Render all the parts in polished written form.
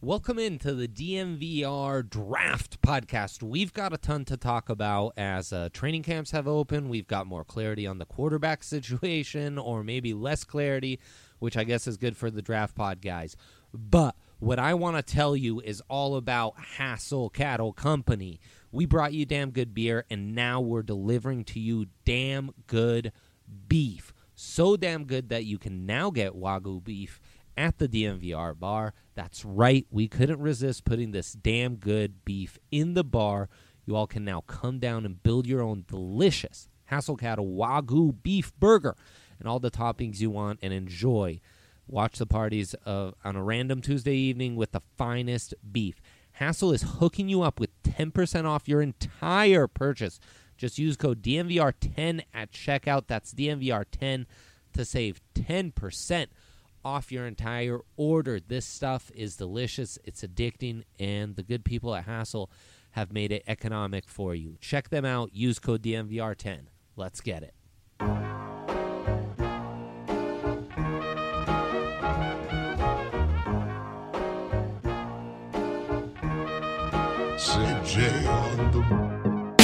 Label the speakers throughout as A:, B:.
A: Welcome into the DNVR Draft Podcast. We've got a ton to talk about as training camps have opened. We've got more clarity on the quarterback situation, or maybe less clarity, which I guess is good for the Draft Pod guys. But what I want to tell you is all about Hassel Cattle Company. We brought you damn good beer, and now we're delivering to you damn good beef. So damn good that you can now get Wagyu beef at the DNVR bar. That's right, we couldn't resist putting this damn good beef in the bar. You all can now come down and build your own delicious Hassel Cattle Wagyu beef burger and all the toppings you want and enjoy. Watch the parties on a random Tuesday evening with the finest beef. Hassel is hooking you up with 10% off your entire purchase. Just use code DNVR10 at checkout. That's DNVR10 to save 10% off your entire order. This stuff is delicious, it's addicting, and the good people at Hassel have made it economic for you. Check them out. Use code DNVR10. Let's get it.
B: CJ on the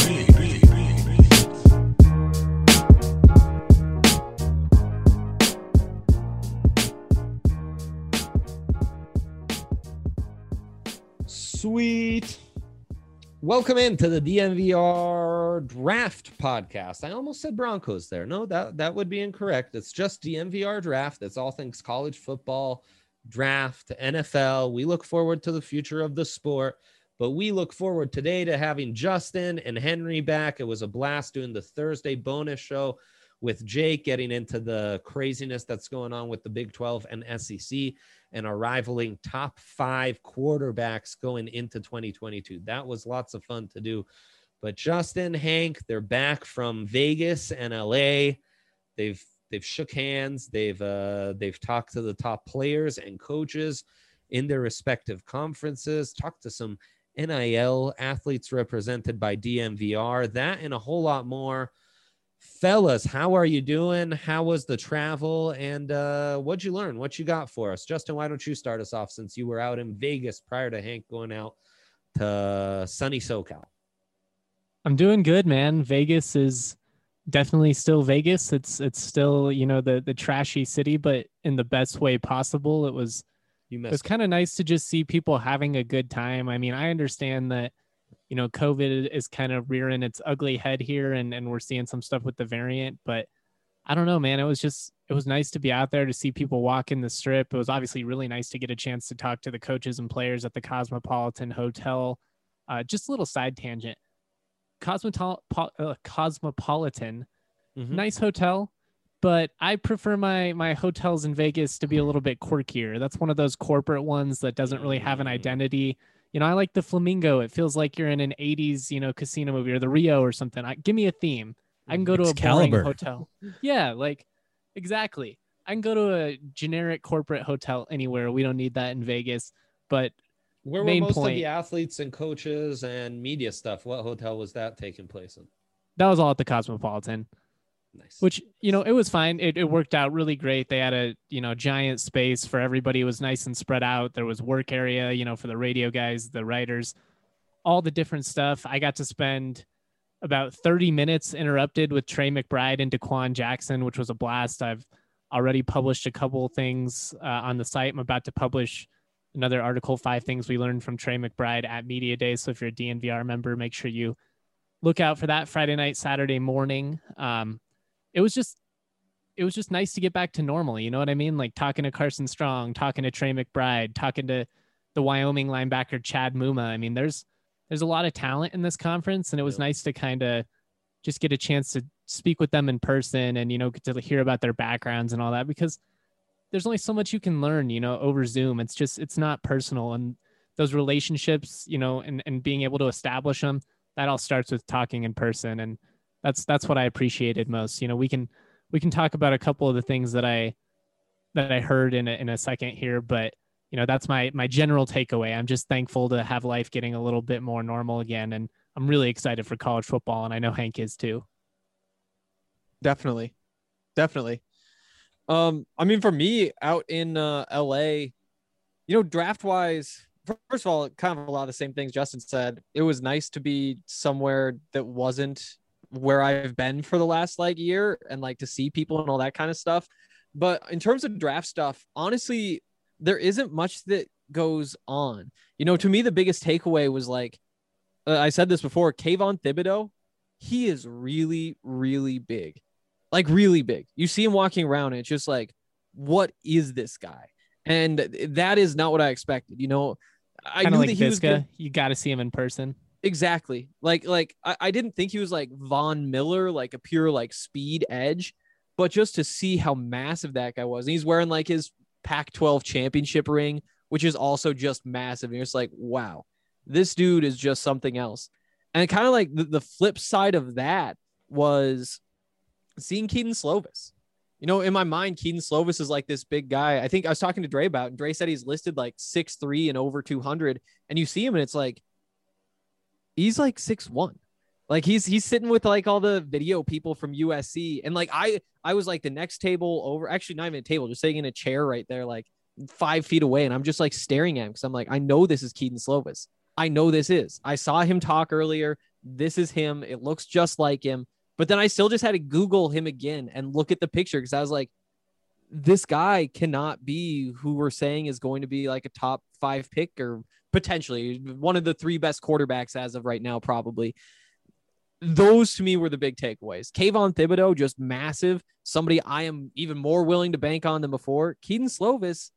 A: Sweet. Welcome into the DNVR Draft Podcast. I almost said Broncos there. No, that would be incorrect. It's just DNVR Draft. It's all things college football, draft, NFL. We look forward to the future of the sport, but we look forward today to having Justin and Henry back. It was a blast doing the Thursday bonus show with Jake, getting into the craziness that's going on with the Big 12 and SEC and our rivaling top 5 quarterbacks going into 2022. That was lots of fun to do. But Justin, Hank, they're back from Vegas and LA. They've shook hands. They've talked to the top players and coaches in their respective conferences, talked to some NIL athletes represented by DNVR, that and a whole lot more. Fellas, how are you doing? How was the travel? And what'd you learn? What you got for us? Justin, why don't you start us off since you were out in Vegas prior to Hank going out to sunny SoCal?
C: I'm doing good, man. Vegas is definitely still Vegas. It's still, you know, the trashy city, but in the best way possible. It was kind of nice to just see people having a good time. I mean, I understand that, you know, COVID is kind of rearing its ugly head here and we're seeing some stuff with the variant, but I don't know, man. It was nice to be out there to see people walk in the strip. It was obviously really nice to get a chance to talk to the coaches and players at the Cosmopolitan Hotel. Just a little side tangent. Cosmopolitan, nice hotel, but I prefer my hotels in Vegas to be a little bit quirkier. That's one of those corporate ones that doesn't really have an identity. You know, I like the Flamingo. It feels like you're in an 80s, you know, casino movie, or the Rio or something. Give me a theme. I can go to a boring hotel. Yeah, like, exactly. I can go to a generic corporate hotel anywhere. We don't need that in Vegas. But
A: where were most of the athletes and coaches and media stuff? What hotel was that taking place in?
C: That was all at the Cosmopolitan. Nice. Which, you know, it was fine. It worked out really great. They had a, you know, giant space for everybody. It was nice and spread out. There was work area, you know, for the radio guys, the writers, all the different stuff. I got to spend about 30 minutes interrupted with Trey McBride and Daquan Jackson, which was a blast. I've already published a couple things on the site. I'm about to publish another article, 5 things we learned from Trey McBride at Media Day. So if you're a DNVR member, make sure you look out for that Friday night, Saturday morning. It was just nice to get back to normal. You know what I mean? Like talking to Carson Strong, talking to Trey McBride, talking to the Wyoming linebacker, Chad Muma. I mean, there's a lot of talent in this conference, and it was nice to kind of just get a chance to speak with them in person and, you know, get to hear about their backgrounds and all that, because there's only so much you can learn, you know, over Zoom. It's not personal, and those relationships, you know, and being able to establish them, that all starts with talking in person. And that's what I appreciated most. You know, we can talk about a couple of the things that I heard in a second here, but you know, that's my general takeaway. I'm just thankful to have life getting a little bit more normal again, and I'm really excited for college football, and I know Hank is too.
D: Definitely. I mean, for me out in LA, you know, draft wise, first of all, kind of a lot of the same things Justin said. It was nice to be somewhere that wasn't where I've been for the last like year and like to see people and all that kind of stuff. But in terms of draft stuff, honestly, there isn't much that goes on. You know, to me, the biggest takeaway was like, I said this before, Kayvon Thibodeau, he is really, really big, like really big. You see him walking around and it's just like, what is this guy? And that is not what I expected. You know, I
C: Kinda
D: knew
C: like
D: that he was
C: Visca.
D: good.
C: You got to see him in person.
D: Exactly. Like I didn't think he was like Von Miller, like a pure like speed edge, but just to see how massive that guy was. And he's wearing like his Pac-12 championship ring, which is also just massive. And you're just like, wow, this dude is just something else. And kind of like the flip side of that was seeing Keaton Slovis. You know, in my mind, Keaton Slovis is like this big guy. I think I was talking to Dre about it, and Dre said he's listed like 6'3" and over 200. And you see him and it's like, he's like 6'1". Like he's sitting with like all the video people from USC. And like, I was like the next table over, actually not even a table, just sitting in a chair right there, like 5 feet away. And I'm just like staring at him because I'm like, I know this is Keaton Slovis. I know this is. I saw him talk earlier. This is him. It looks just like him. But then I still just had to Google him again and look at the picture because I was like, this guy cannot be who we're saying is going to be like a top 5 pick or potentially one of the 3 best quarterbacks as of right now, probably. Those to me were the big takeaways. Kayvon Thibodeau, just massive. Somebody I am even more willing to bank on than before. Keaton Slovis,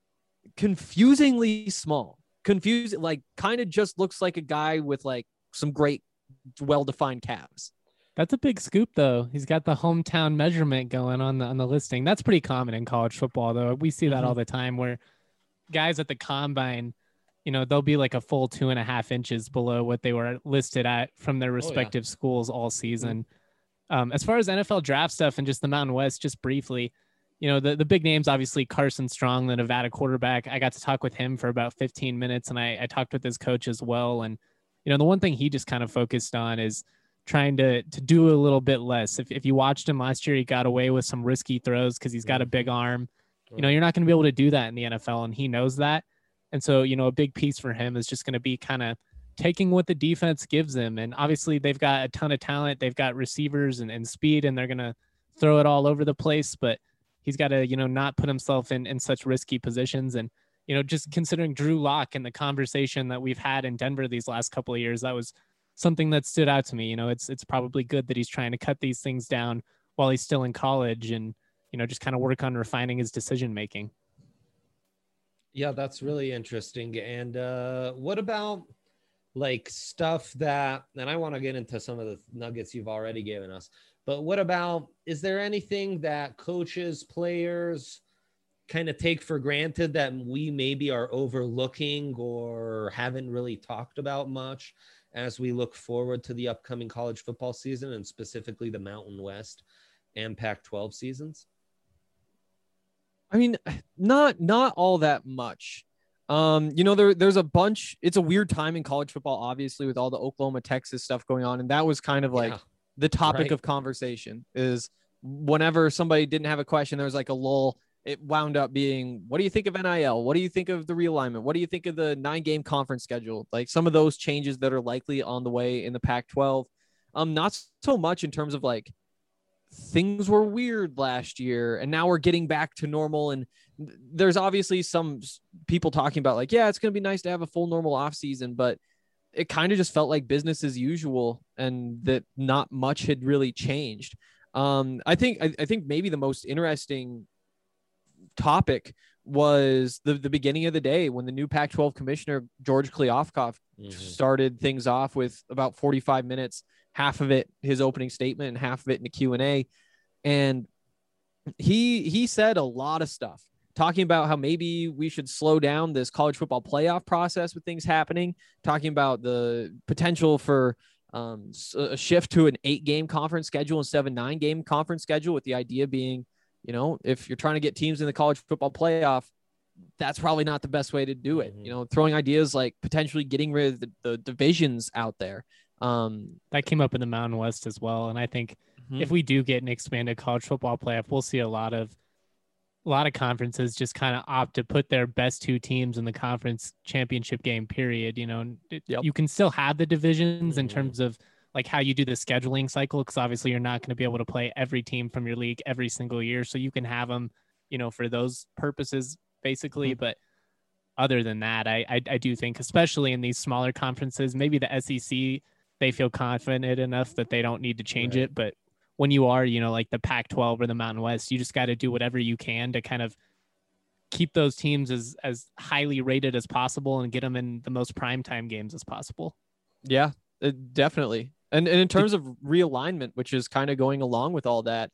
D: confusingly small. Confused, like kind of just looks like a guy with like some great, well-defined calves.
C: That's a big scoop, though. He's got the hometown measurement going on the listing. That's pretty common in college football, though. We see that all the time where guys at the combine, you know, they'll be like a full 2.5 inches below what they were listed at from their respective schools all season. As far as NFL draft stuff and just the Mountain West, just briefly, you know, the big names, obviously Carson Strong, the Nevada quarterback. I got to talk with him for about 15 minutes and I talked with his coach as well. And, you know, the one thing he just kind of focused on is trying to do a little bit less. If you watched him last year, he got away with some risky throws because he's got a big arm. You know, you're not going to be able to do that in the NFL, and he knows that. And so, you know, a big piece for him is just going to be kind of taking what the defense gives him. And obviously they've got a ton of talent. They've got receivers and speed, and they're going to throw it all over the place. But he's got to, you know, not put himself in such risky positions. And, you know, just considering Drew Lock and the conversation that we've had in Denver these last couple of years, that was something that stood out to me. You know, it's probably good that he's trying to cut these things down while he's still in college and, you know, just kind of work on refining his decision-making.
A: Yeah, that's really interesting. And what about like stuff that, and I want to get into some of the nuggets you've already given us, but what about, is there anything that coaches, players kind of take for granted that we maybe are overlooking or haven't really talked about much as we look forward to the upcoming college football season and specifically the Mountain West and Pac-12 seasons?
D: I mean, not all that much. You know, there's a bunch. It's a weird time in college football, obviously, with all the Oklahoma, Texas stuff going on. And that was kind of like the topic of conversation is whenever somebody didn't have a question, there was like a lull. It wound up being, what do you think of NIL? What do you think of the realignment? What do you think of the 9-game conference schedule? Like some of those changes that are likely on the way in the Pac-12. Not so much in terms of like things were weird last year and now we're getting back to normal. And there's obviously some people talking about like, yeah, it's going to be nice to have a full normal off season, but it kind of just felt like business as usual and that not much had really changed. I think maybe the most interesting topic was the beginning of the day when the new Pac-12 commissioner, George Kliavkoff, started things off with about 45 minutes, half of it his opening statement and half of it in the Q&A. And he said a lot of stuff talking about how maybe we should slow down this college football playoff process with things happening, talking about the potential for a shift to an 8-game conference schedule instead of a 9-game conference schedule, with the idea being, you know, if you're trying to get teams in the college football playoff, that's probably not the best way to do it. You know, throwing ideas like potentially getting rid of the divisions out there.
C: That came up in the Mountain West as well. And I think if we do get an expanded college football playoff, we'll see a lot of a lot of conferences just kind of opt to put their best two teams in the conference championship game, period. You know,
D: Yep.
C: you can still have the divisions in
A: Mhm.
C: terms of like how you do the scheduling cycle, because obviously you're not going to be able to play every team from your league every single year. So you can have them, you know, for those purposes, basically.
D: Mhm.
C: But other than that, I do think, especially in these smaller conferences, maybe the SEC, they feel confident enough that they don't need to change
A: Right.
C: it. But when you are, you know, like the Pac-12 or the Mountain West, you just got to do whatever you can to kind of keep those teams as highly rated as possible and get them in the most primetime games as possible.
D: Yeah, definitely. And in terms of realignment, which is kind of going along with all that,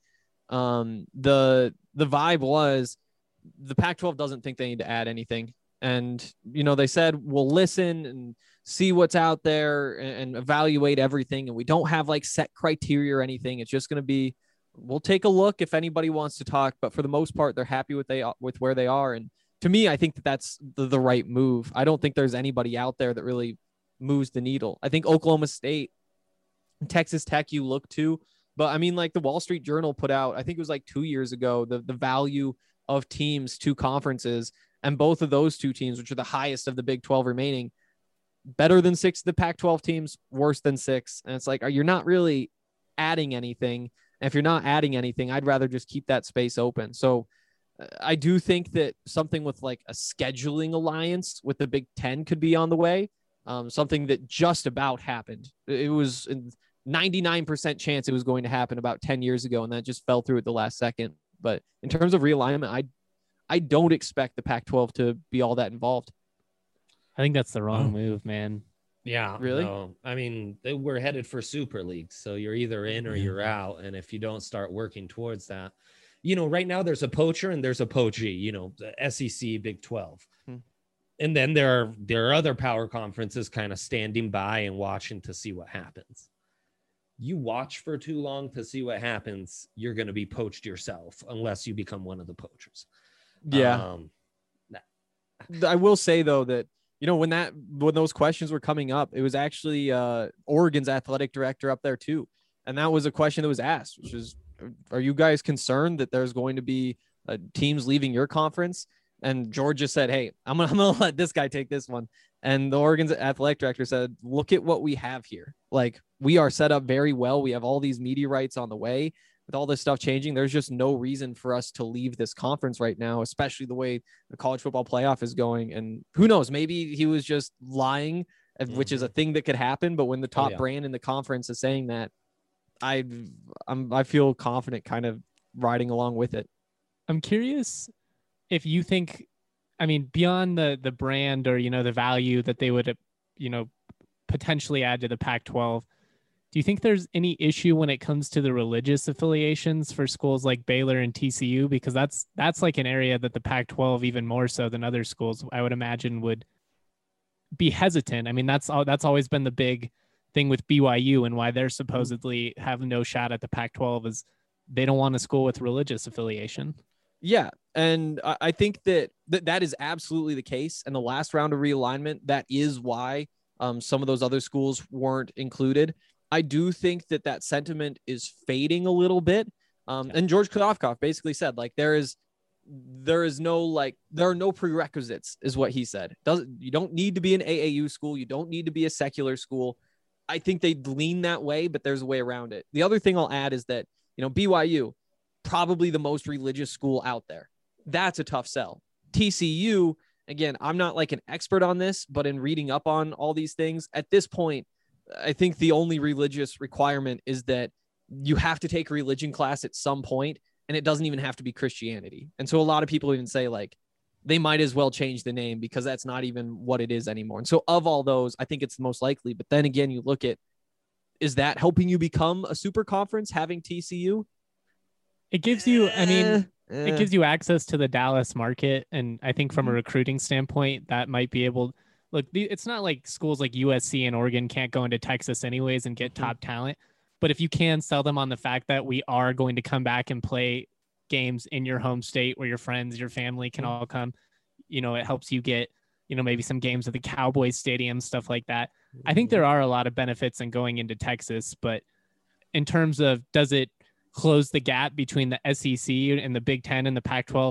D: the vibe was the Pac-12 doesn't think they need to add anything. And, you know, they said, we'll listen and see what's out there and evaluate everything. And we don't have like set criteria or anything. It's just going to be, we'll take a look if anybody wants to talk, but for the most part, they're happy with where they are. And to me, I think that that's the right move. I don't think there's anybody out there that really moves the needle. I think Oklahoma State, Texas Tech, you look to, but I mean, like the Wall Street Journal put out, I think it was like 2 years ago, the value of teams to conferences, and both of those two teams, which are the highest of the Big 12 remaining, better than 6 of the Pac-12 teams, worse than 6. And it's like, you're not really adding anything. And if you're not adding anything, I'd rather just keep that space open. So I do think that something with like a scheduling alliance with the Big 10 could be on the way. Something that just about happened. It was a 99% chance it was going to happen about 10 years ago, and that just fell through at the last second. But in terms of realignment, I don't expect the Pac-12 to be all that involved.
C: I think that's the wrong move, man.
A: Yeah,
D: Really?
A: No. I mean, we're headed for super leagues, so you're either in or you're out. And if you don't start working towards that, you know, right now there's a poacher and there's a poachee. You know, the SEC, Big 12, and then there are other power conferences kind of standing by and watching to see what happens. You watch for too long to see what happens, you're going to be poached yourself unless you become one of the poachers.
D: Yeah. I will say though that, you know, when those questions were coming up, it was actually Oregon's athletic director up there too. And that was a question that was asked, which is, are you guys concerned that there's going to be teams leaving your conference? And Georgia said, hey, I'm gonna let this guy take this one. And the Oregon's athletic director said, look at what we have here. Like, we are set up very well. We have all these media rights on the way. With all this stuff changing, there's just no reason for us to leave this conference right now, especially the way the college football playoff is going. And who knows, maybe he was just lying, which is a thing that could happen. But when the top brand in the conference is saying that, I feel confident kind of riding along with it.
C: I'm curious if you think, I mean, beyond the brand or, you know, the value that they would, you know, potentially add to the Pac-12, do you think there's any issue when it comes to the religious affiliations for schools like Baylor and TCU? Because that's like an area that the Pac-12, even more so than other schools, I would imagine would be hesitant. I mean, that's always been the big thing with BYU and why they're supposedly have no shot at the Pac-12 is they don't want a school with religious affiliation.
D: Yeah. And I think that is absolutely the case. And the last round of realignment, that is why some of those other schools weren't included. I do think that sentiment is fading a little bit. And George Khodovkov basically said, like, there are no prerequisites, is what he said. You don't need to be an AAU school. You don't need to be a secular school. I think they lean that way, but there's a way around it. The other thing I'll add is that, you know, BYU, probably the most religious school out there. That's a tough sell. TCU, again, I'm not like an expert on this, but in reading up on all these things at this point, I think the only religious requirement is that you have to take a religion class at some point, and it doesn't even have to be Christianity. And so a lot of people even say, like, they might as well change the name because that's not even what it is anymore. And so of all those, I think it's the most likely. But then again, you look at, is that helping you become a super conference, having TCU?
C: It gives you, I mean, it gives you access to the Dallas market. And I think from a recruiting standpoint, that might be able, look, it's not like schools like USC and Oregon can't go into Texas anyways and get top talent. But if you can sell them on the fact that we are going to come back and play games in your home state where your friends, your family can all come, you know, it helps you get, you know, maybe some games at the Cowboys Stadium, stuff like that. I think there are a lot of benefits in going into Texas, but in terms of, does it close the gap between the SEC and the Big Ten and the Pac-12?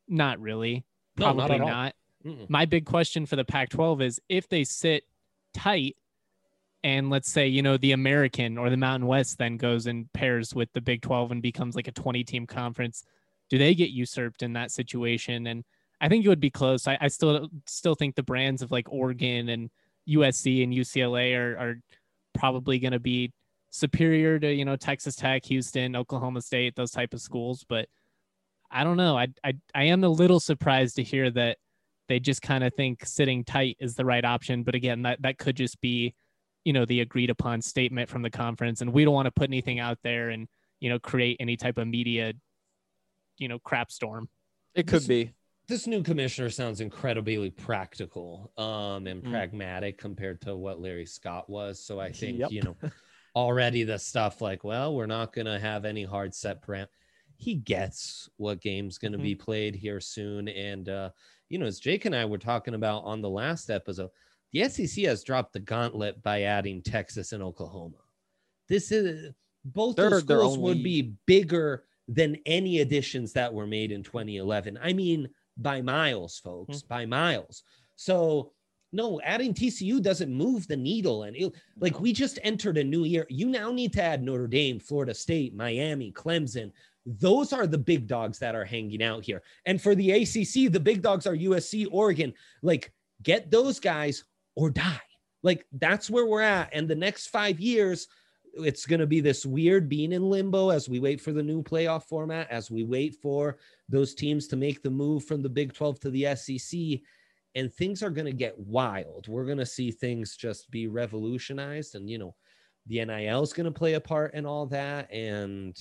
C: Not really.
A: No, not
C: Probably
A: at all.
C: not.
A: Mm-mm.
C: My big question for the Pac-12 is if they sit tight and let's say, you know, the American or the Mountain West then goes and pairs with the Big 12 and becomes like a 20-team conference, do they get usurped in that situation? And I think it would be close. I still think the brands of like Oregon and USC and UCLA are probably going to be superior to, you know, Texas Tech, Houston, Oklahoma State, those type of schools. But I don't know. I am a little surprised to hear that they just kind of think sitting tight is the right option. But again, that could just be, you know, the agreed upon statement from the conference. And we don't want to put anything out there and, you know, create any type of media, you know, crap storm.
D: It could be.
A: This new commissioner sounds incredibly practical and pragmatic compared to what Larry Scott was. So I think, you know, already the stuff like, well, we're not going to have any hard set param. He gets what game's going to be played here soon. And, you know, as Jake and I were talking about on the last episode, the SEC has dropped the gauntlet by adding Texas and Oklahoma. This is both those schools would be bigger than any additions that were made in 2011. I mean, by miles, folks, by miles. So no, adding TCU doesn't move the needle. And like we just entered a new year. You now need to add Notre Dame, Florida State, Miami, Clemson. Those are the big dogs that are hanging out here. And for the ACC, the big dogs are USC, Oregon. Like get those guys or die. Like that's where we're at. And the next 5 years, it's going to be this weird being in limbo as we wait for the new playoff format, as we wait for those teams to make the move from the Big 12 to the SEC, and things are going to get wild. We're going to see things just be revolutionized, and, you know, the NIL is going to play a part in all that, and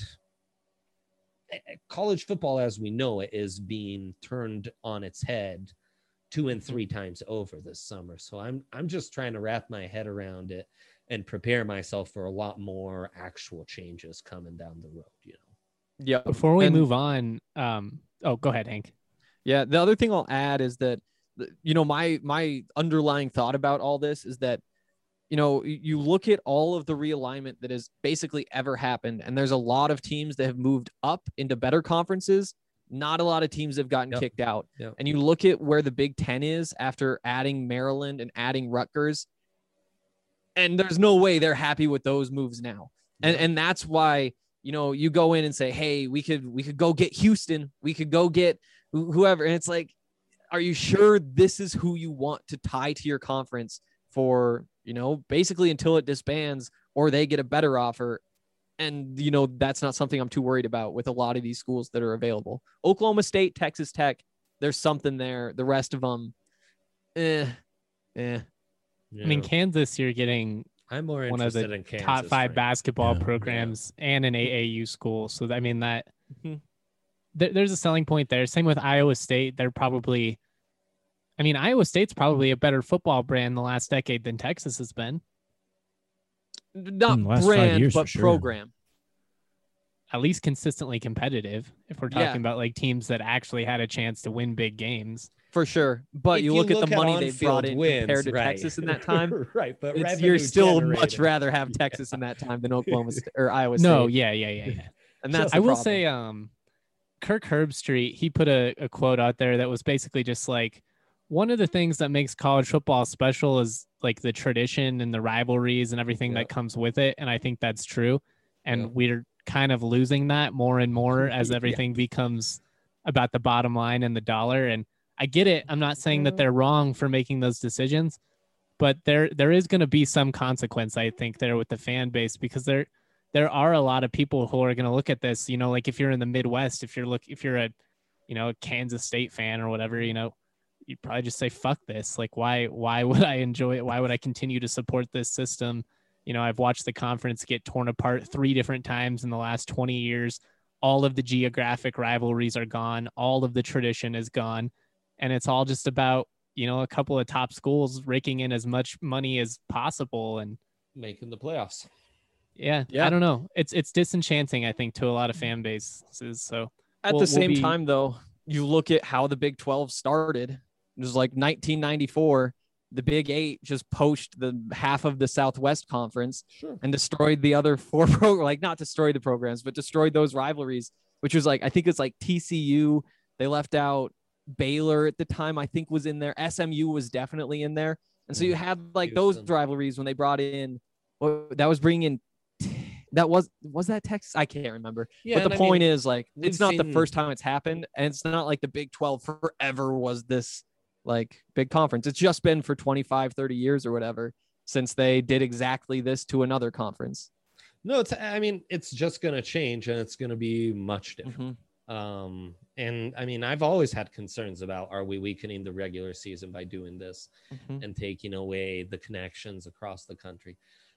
A: college football as we know it is being turned on its head 2 and 3 times over this summer. So I'm just trying to wrap my head around it and prepare myself for a lot more actual changes coming down the road, you know?
D: Yeah.
C: Before we move on, go ahead, Hank.
D: Yeah. The other thing I'll add is that, you know, my underlying thought about all this is that, you know, you look at all of the realignment that has basically ever happened, and there's a lot of teams that have moved up into better conferences. Not a lot of teams have gotten kicked out. Yep. And you look at where the Big Ten is after adding Maryland and adding Rutgers, and there's no way they're happy with those moves now. And that's why, you know, you go in and say, hey, we could go get Houston. We could go get whoever. And it's like, are you sure this is who you want to tie to your conference for, you know, basically until it disbands or they get a better offer? And, you know, that's not something I'm too worried about with a lot of these schools that are available. Oklahoma State, Texas Tech, there's something there. The rest of them,
C: I mean, Kansas, you're getting
A: I'm more
C: one of the
A: in Kansas,
C: top 5
A: right?
C: basketball programs and an AAU school. So, I mean, that there's a selling point there. Same with Iowa State. They're probably, I mean, Iowa State's probably a better football brand the last decade than Texas has been.
D: Not brand, but
E: sure.
D: program.
C: At least consistently competitive, if we're talking about like teams that actually had a chance to win big games.
D: For sure. But
A: If
D: you look at the money they brought in
A: wins,
D: compared to
A: right.
D: Texas in that time.
A: Right, but
D: You're still much rather have Texas in that time than Oklahoma State or Iowa State.
C: No, yeah.
D: And that's
C: I will
D: problem.
C: say, Kirk Herbstreit, he put a quote out there that was basically just like, one of the things that makes college football special is like the tradition and the rivalries and everything that comes with it. And I think that's true. And we're kind of losing that more and more as everything becomes about the bottom line and the dollar. And I get it. I'm not saying that they're wrong for making those decisions, but there is going to be some consequence, I think, there with the fan base, because there are a lot of people who are going to look at this, you know, like if you're in the Midwest, if you're a, you know, a Kansas State fan or whatever, you know, you'd probably just say, fuck this. Like, why would I enjoy it? Why would I continue to support this system? You know, I've watched the conference get torn apart 3 different times in the last 20 years. All of the geographic rivalries are gone. All of the tradition is gone. And it's all just about, you know, a couple of top schools raking in as much money as possible and
A: making the playoffs.
C: Yeah. I don't know. It's disenchanting, I think, to a lot of fan bases. So
D: at the same time, though, you look at how the Big 12 started. It was like 1994. The Big 8 just poached the half of the Southwest Conference and destroyed the other 4 not destroyed the programs, but destroyed those rivalries, which was like, I think it's like TCU, They left out Baylor at the time, I think was in there. SMU was definitely in there. And so you had like those rivalries when they brought in, that was bringing in, that was that Texas? I can't remember.
A: Yeah,
D: but the point is like,
A: we've
D: it's not the
A: seen-
D: first time it's happened. And it's not like the Big 12 forever was this like big conference. It's just been for 25, 30 years or whatever since they did exactly this to another conference.
A: No, it's just going to change, and it's going to be much different. And I mean, I've always had concerns about, are we weakening the regular season by doing this and taking away the connections across the country?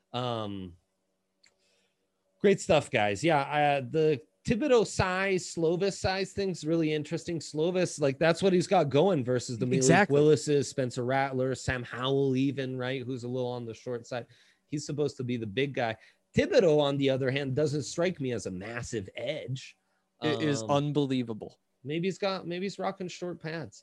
A: Great stuff, guys. Yeah, the Thibodeau size, Slovis size thing's really interesting. Slovis, like, that's what he's got going versus the Malik Willis's, Spencer Rattler, Sam Howell, even, right, who's a little on the short side. He's supposed to be the big guy. Thibodeau, on the other hand, doesn't strike me as a massive edge.
D: It is unbelievable.
A: Maybe he's rocking short pads.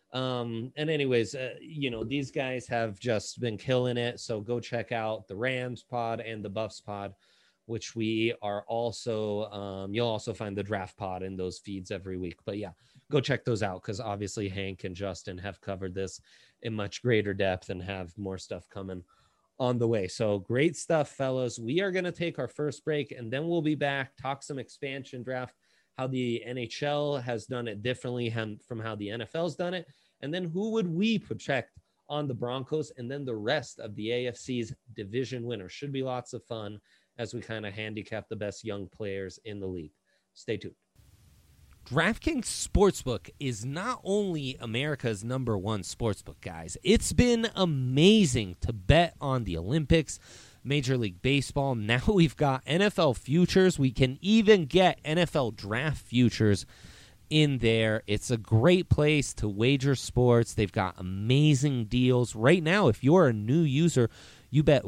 A: And anyways, these guys have just been killing it. So go check out the Rams pod and the Buffs pod, which we are also, you'll also find the draft pod in those feeds every week. But yeah, go check those out, because obviously Hank and Justin have covered this in much greater depth and have more stuff coming on the way. So great stuff, fellas. We are going to take our first break, and then we'll be back, talk some expansion draft, how the NHL has done it differently from how the NFL's done it, and then who would we project on the Broncos, and then the rest of the AFC's division winners. Should be lots of fun as we kind of handicap the best young players in the league. Stay tuned. DraftKings Sportsbook is not only America's #1 sportsbook, guys. It's been amazing to bet on the Olympics, Major League Baseball. Now we've got NFL futures. We can even get NFL draft futures in there. It's a great place to wager sports. They've got amazing deals. Right now, if you're a new user, you bet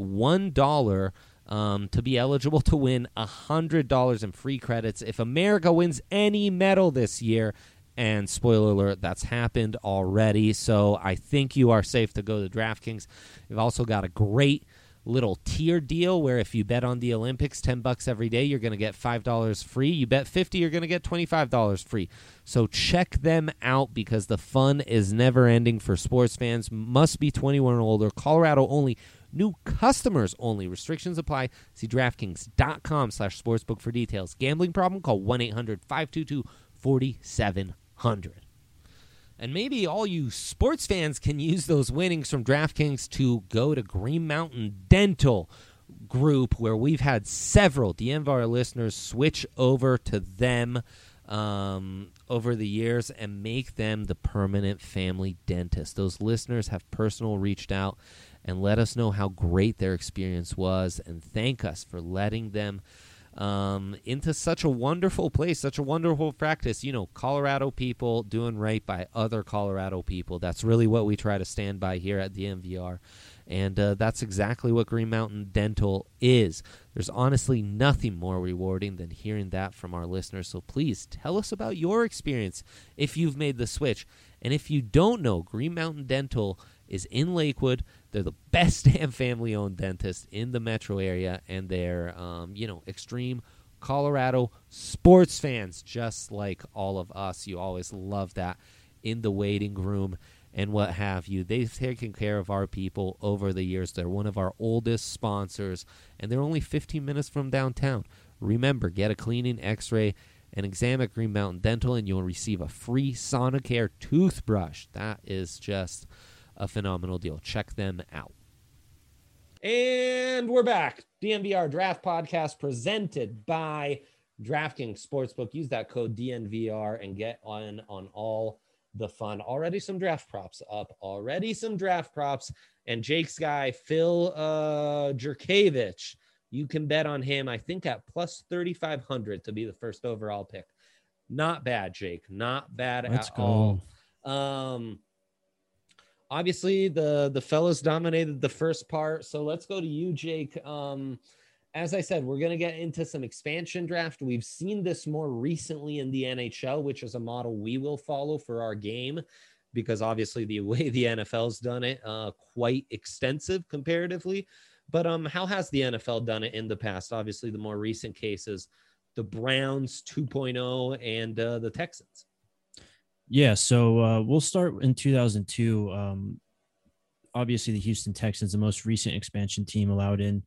A: $1 to be eligible to win $100 in free credits if America wins any medal this year. And spoiler alert, that's happened already. So I think you are safe to go to DraftKings. You've also got a great little tier deal where if you bet on the Olympics $10 every day, you're going to get $5 free. You bet $50, you're going to get $25 free. So check them out, because the fun is never ending for sports fans. Must be 21 or older. Colorado only. New customers only. Restrictions apply. See DraftKings.com/sportsbook for details. Gambling problem? Call 1-800-522-4700. And maybe all you sports fans can use those winnings from DraftKings to go to Green Mountain Dental Group, where we've had several DNVR listeners switch over to them over the years and make them the permanent family dentist. Those listeners have personally reached out and let us know how great their experience was, and thank us for letting them into such a wonderful place, such a wonderful practice. Colorado people doing right by other Colorado people. That's really what we try to stand by here at DNVR. And that's exactly what Green Mountain Dental is. There's honestly nothing more rewarding than hearing that from our listeners. So please tell us about your experience if you've made the switch. And if you don't know, Green Mountain Dental is in Lakewood. They're the best damn family-owned dentist in the metro area, and they're, extreme Colorado sports fans, just like all of us. You always love that in the waiting room and what have you. They've taken care of our people over the years. They're one of our oldest sponsors, and they're only 15 minutes from downtown. Remember, get a cleaning, x-ray, and exam at Green Mountain Dental, and you'll receive a free Sonicare toothbrush. That is just a phenomenal deal. Check them out. And we're back. DNVR Draft Podcast presented by DraftKings Sportsbook. Use that code DNVR and get on all the fun. Already some draft props up. And Jake's guy, Phil Jurkevich, you can bet on him, I think, at plus 3,500 to be the first overall pick. Not bad, Jake. Not bad at all. Obviously, the fellas dominated the first part, so let's go to you, Jake. As I said, we're going to get into some expansion draft. We've seen this more recently in the NHL, which is a model we will follow for our game, because obviously the way the NFL's done it, quite extensive comparatively. But how has the NFL done it in the past? Obviously, the more recent cases, the Browns 2.0 and the Texans.
E: Yeah, so we'll start in 2002. Obviously, the Houston Texans, the most recent expansion team allowed in.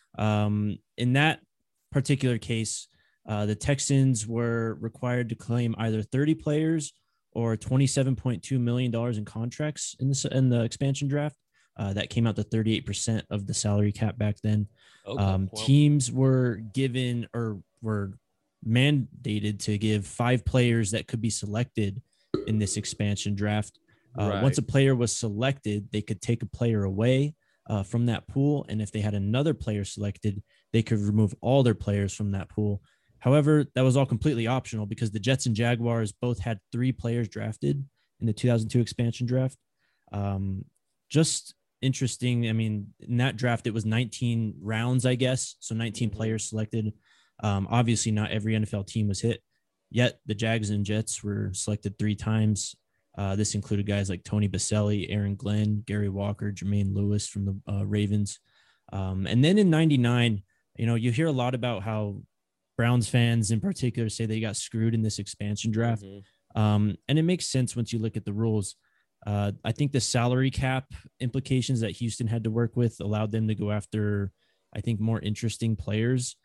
E: In that particular case, the Texans were required to claim either 30 players or $27.2 million in contracts in the expansion draft. That came out to 38% of the salary cap back then.
A: Okay, well,
E: Teams were given or were mandated to give 5 players that could be selected in this expansion draft.
A: right.
E: Once a player was selected, they could take a player away from that pool. And if they had another player selected, they could remove all their players from that pool. However, that was all completely optional because the Jets and Jaguars both had 3 players drafted in the 2002 expansion draft. Just interesting. I mean, in that draft, it was 19 rounds, I guess. So 19 players selected. Obviously, not every NFL team was hit. Yet the Jags and Jets were selected 3 times. This included guys like Tony Baselli, Aaron Glenn, Gary Walker, Jermaine Lewis from the Ravens. And then in 99, you hear a lot about how Browns fans in particular say they got screwed in this expansion draft. And it makes sense once you look at the rules. I think the salary cap implications that Houston had to work with allowed them to go after, I think, more interesting players.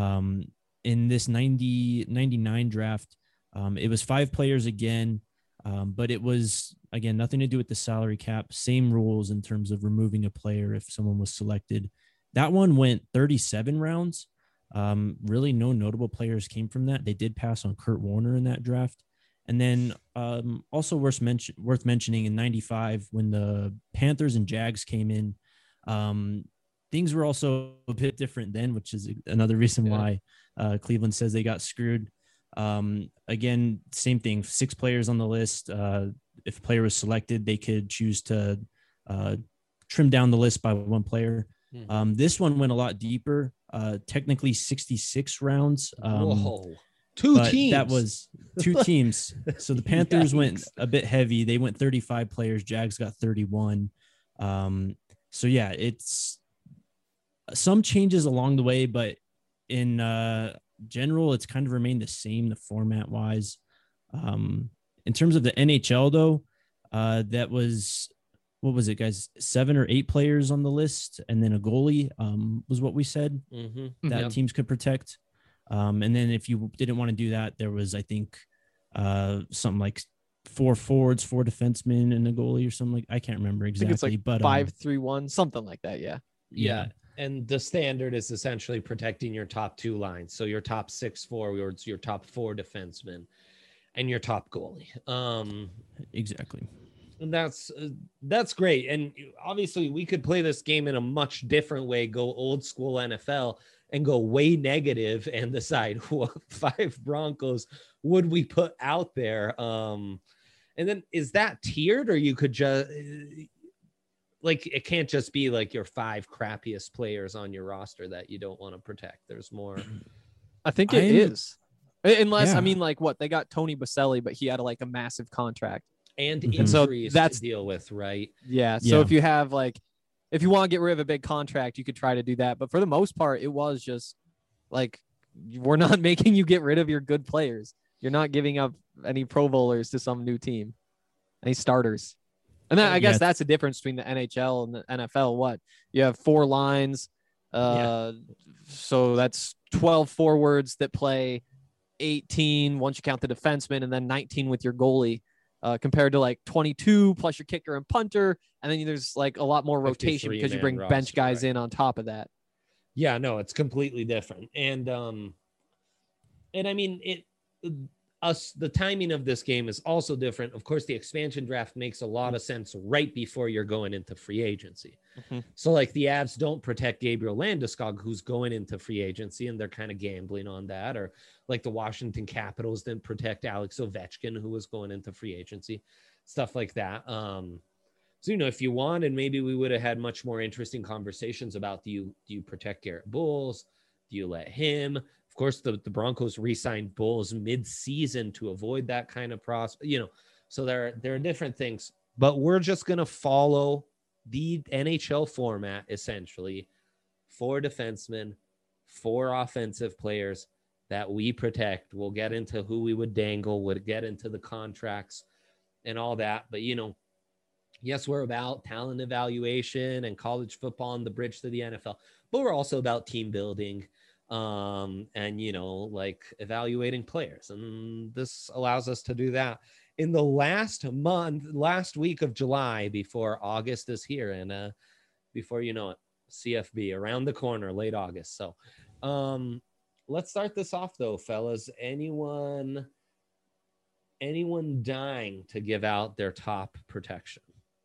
E: In this 99 draft, it was 5 players again. But it was, again, nothing to do with the salary cap. Same rules in terms of removing a player if someone was selected. That one went 37 rounds. Really no notable players came from that. They did pass on Kurt Warner in that draft. And then also worth mentioning in 95 when the Panthers and Jags came in, things were also a bit different then, which is another reason why Cleveland says they got screwed. Again, same thing, 6 players on the list. If a player was selected, they could choose to trim down the list by 1 player. This one went a lot deeper, technically 66 rounds.
A: Whoa. 2 teams.
E: That was 2 teams. So the Panthers went a bit heavy. They went 35 players. Jags got 31. So yeah, it's some changes along the way, but in general, it's kind of remained the same, the format wise. In terms of the NHL though, that was, what was it, guys? 7 or 8 players on the list, and then a goalie was what we said that teams could protect. And then if you didn't want to do that, there was, I think, something like 4 forwards, 4 defensemen, and a goalie or something like, I can't remember exactly.
D: I think it's like
E: but
D: 5-3-1, something like that.
A: Yeah. And the standard is essentially protecting your top 2 lines. So your top 6 forwards, your top 4 defensemen, and your top goalie.
E: Exactly.
A: And that's great. And obviously we could play this game in a much different way, go old school NFL and go way negative and decide what 5 Broncos would we put out there. And then is that tiered, or you could just like, it can't just be like your 5 crappiest players on your roster that you don't want to protect. There's more.
D: I think it is. Unless, I mean, like what, they got Tony Baselli, but he had like a massive contract.
A: And
D: So
A: injuries
D: that's
A: to deal with, right?
D: Yeah. So if you have like, if you want to get rid of a big contract, you could try to do that. But for the most part, it was just like, we're not making you get rid of your good players. You're not giving up any Pro Bowlers to some new team, any starters. And then I guess that's the difference between the NHL and the NFL. What, you have 4 lines. So that's 12 forwards that play 18 once you count the defenseman, and then 19 with your goalie. Compared to like 22 plus your kicker and punter. And then there's like a lot more rotation because you bring bench guys in on top of that.
A: Yeah, no, it's completely different. And I mean, the timing of this game is also different. Of course, the expansion draft makes a lot of sense right before you're going into free agency. So like the Avs don't protect Gabriel Landeskog, who's going into free agency, and they're kind of gambling on that. Or like the Washington Capitals didn't protect Alex Ovechkin, who was going into free agency, stuff like that. So, if you wanted, maybe we would have had much more interesting conversations about, do you protect Garrett Bowles? Do you let him? Of course, the Broncos re-signed Bowles mid-season to avoid that kind of so there are different things, but we're just going to follow the NHL format, essentially 4 defensemen, 4 offensive players that we protect. We'll get into who we would dangle, we'll get into the contracts. and all that. But, yes, we're about talent evaluation and college football and the bridge to the NFL, but we're also about team building and, like evaluating players. And this allows us to do that in the last week of July before August is here. And before you know it, CFB around the corner, late August. So let's start this off though, fellas. Anyone dying to give out their top protection?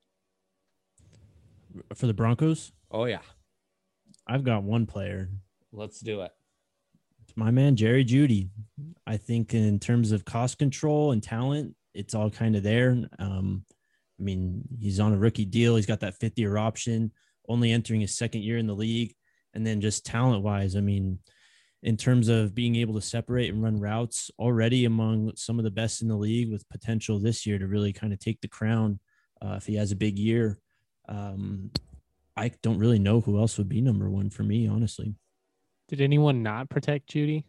E: For the Broncos?
A: Oh yeah.
E: I've got one player.
A: Let's do it.
E: It's my man, Jerry Jeudy. I think in terms of cost control and talent, it's all kind of there. He's on a rookie deal. He's got that fifth-year option, only entering his second year in the league. And then just talent-wise, in terms of being able to separate and run routes, already among some of the best in the league, with potential this year to really kind of take the crown if he has a big year. I don't really know who else would be number one for me, honestly.
C: Did anyone not protect Jeudy?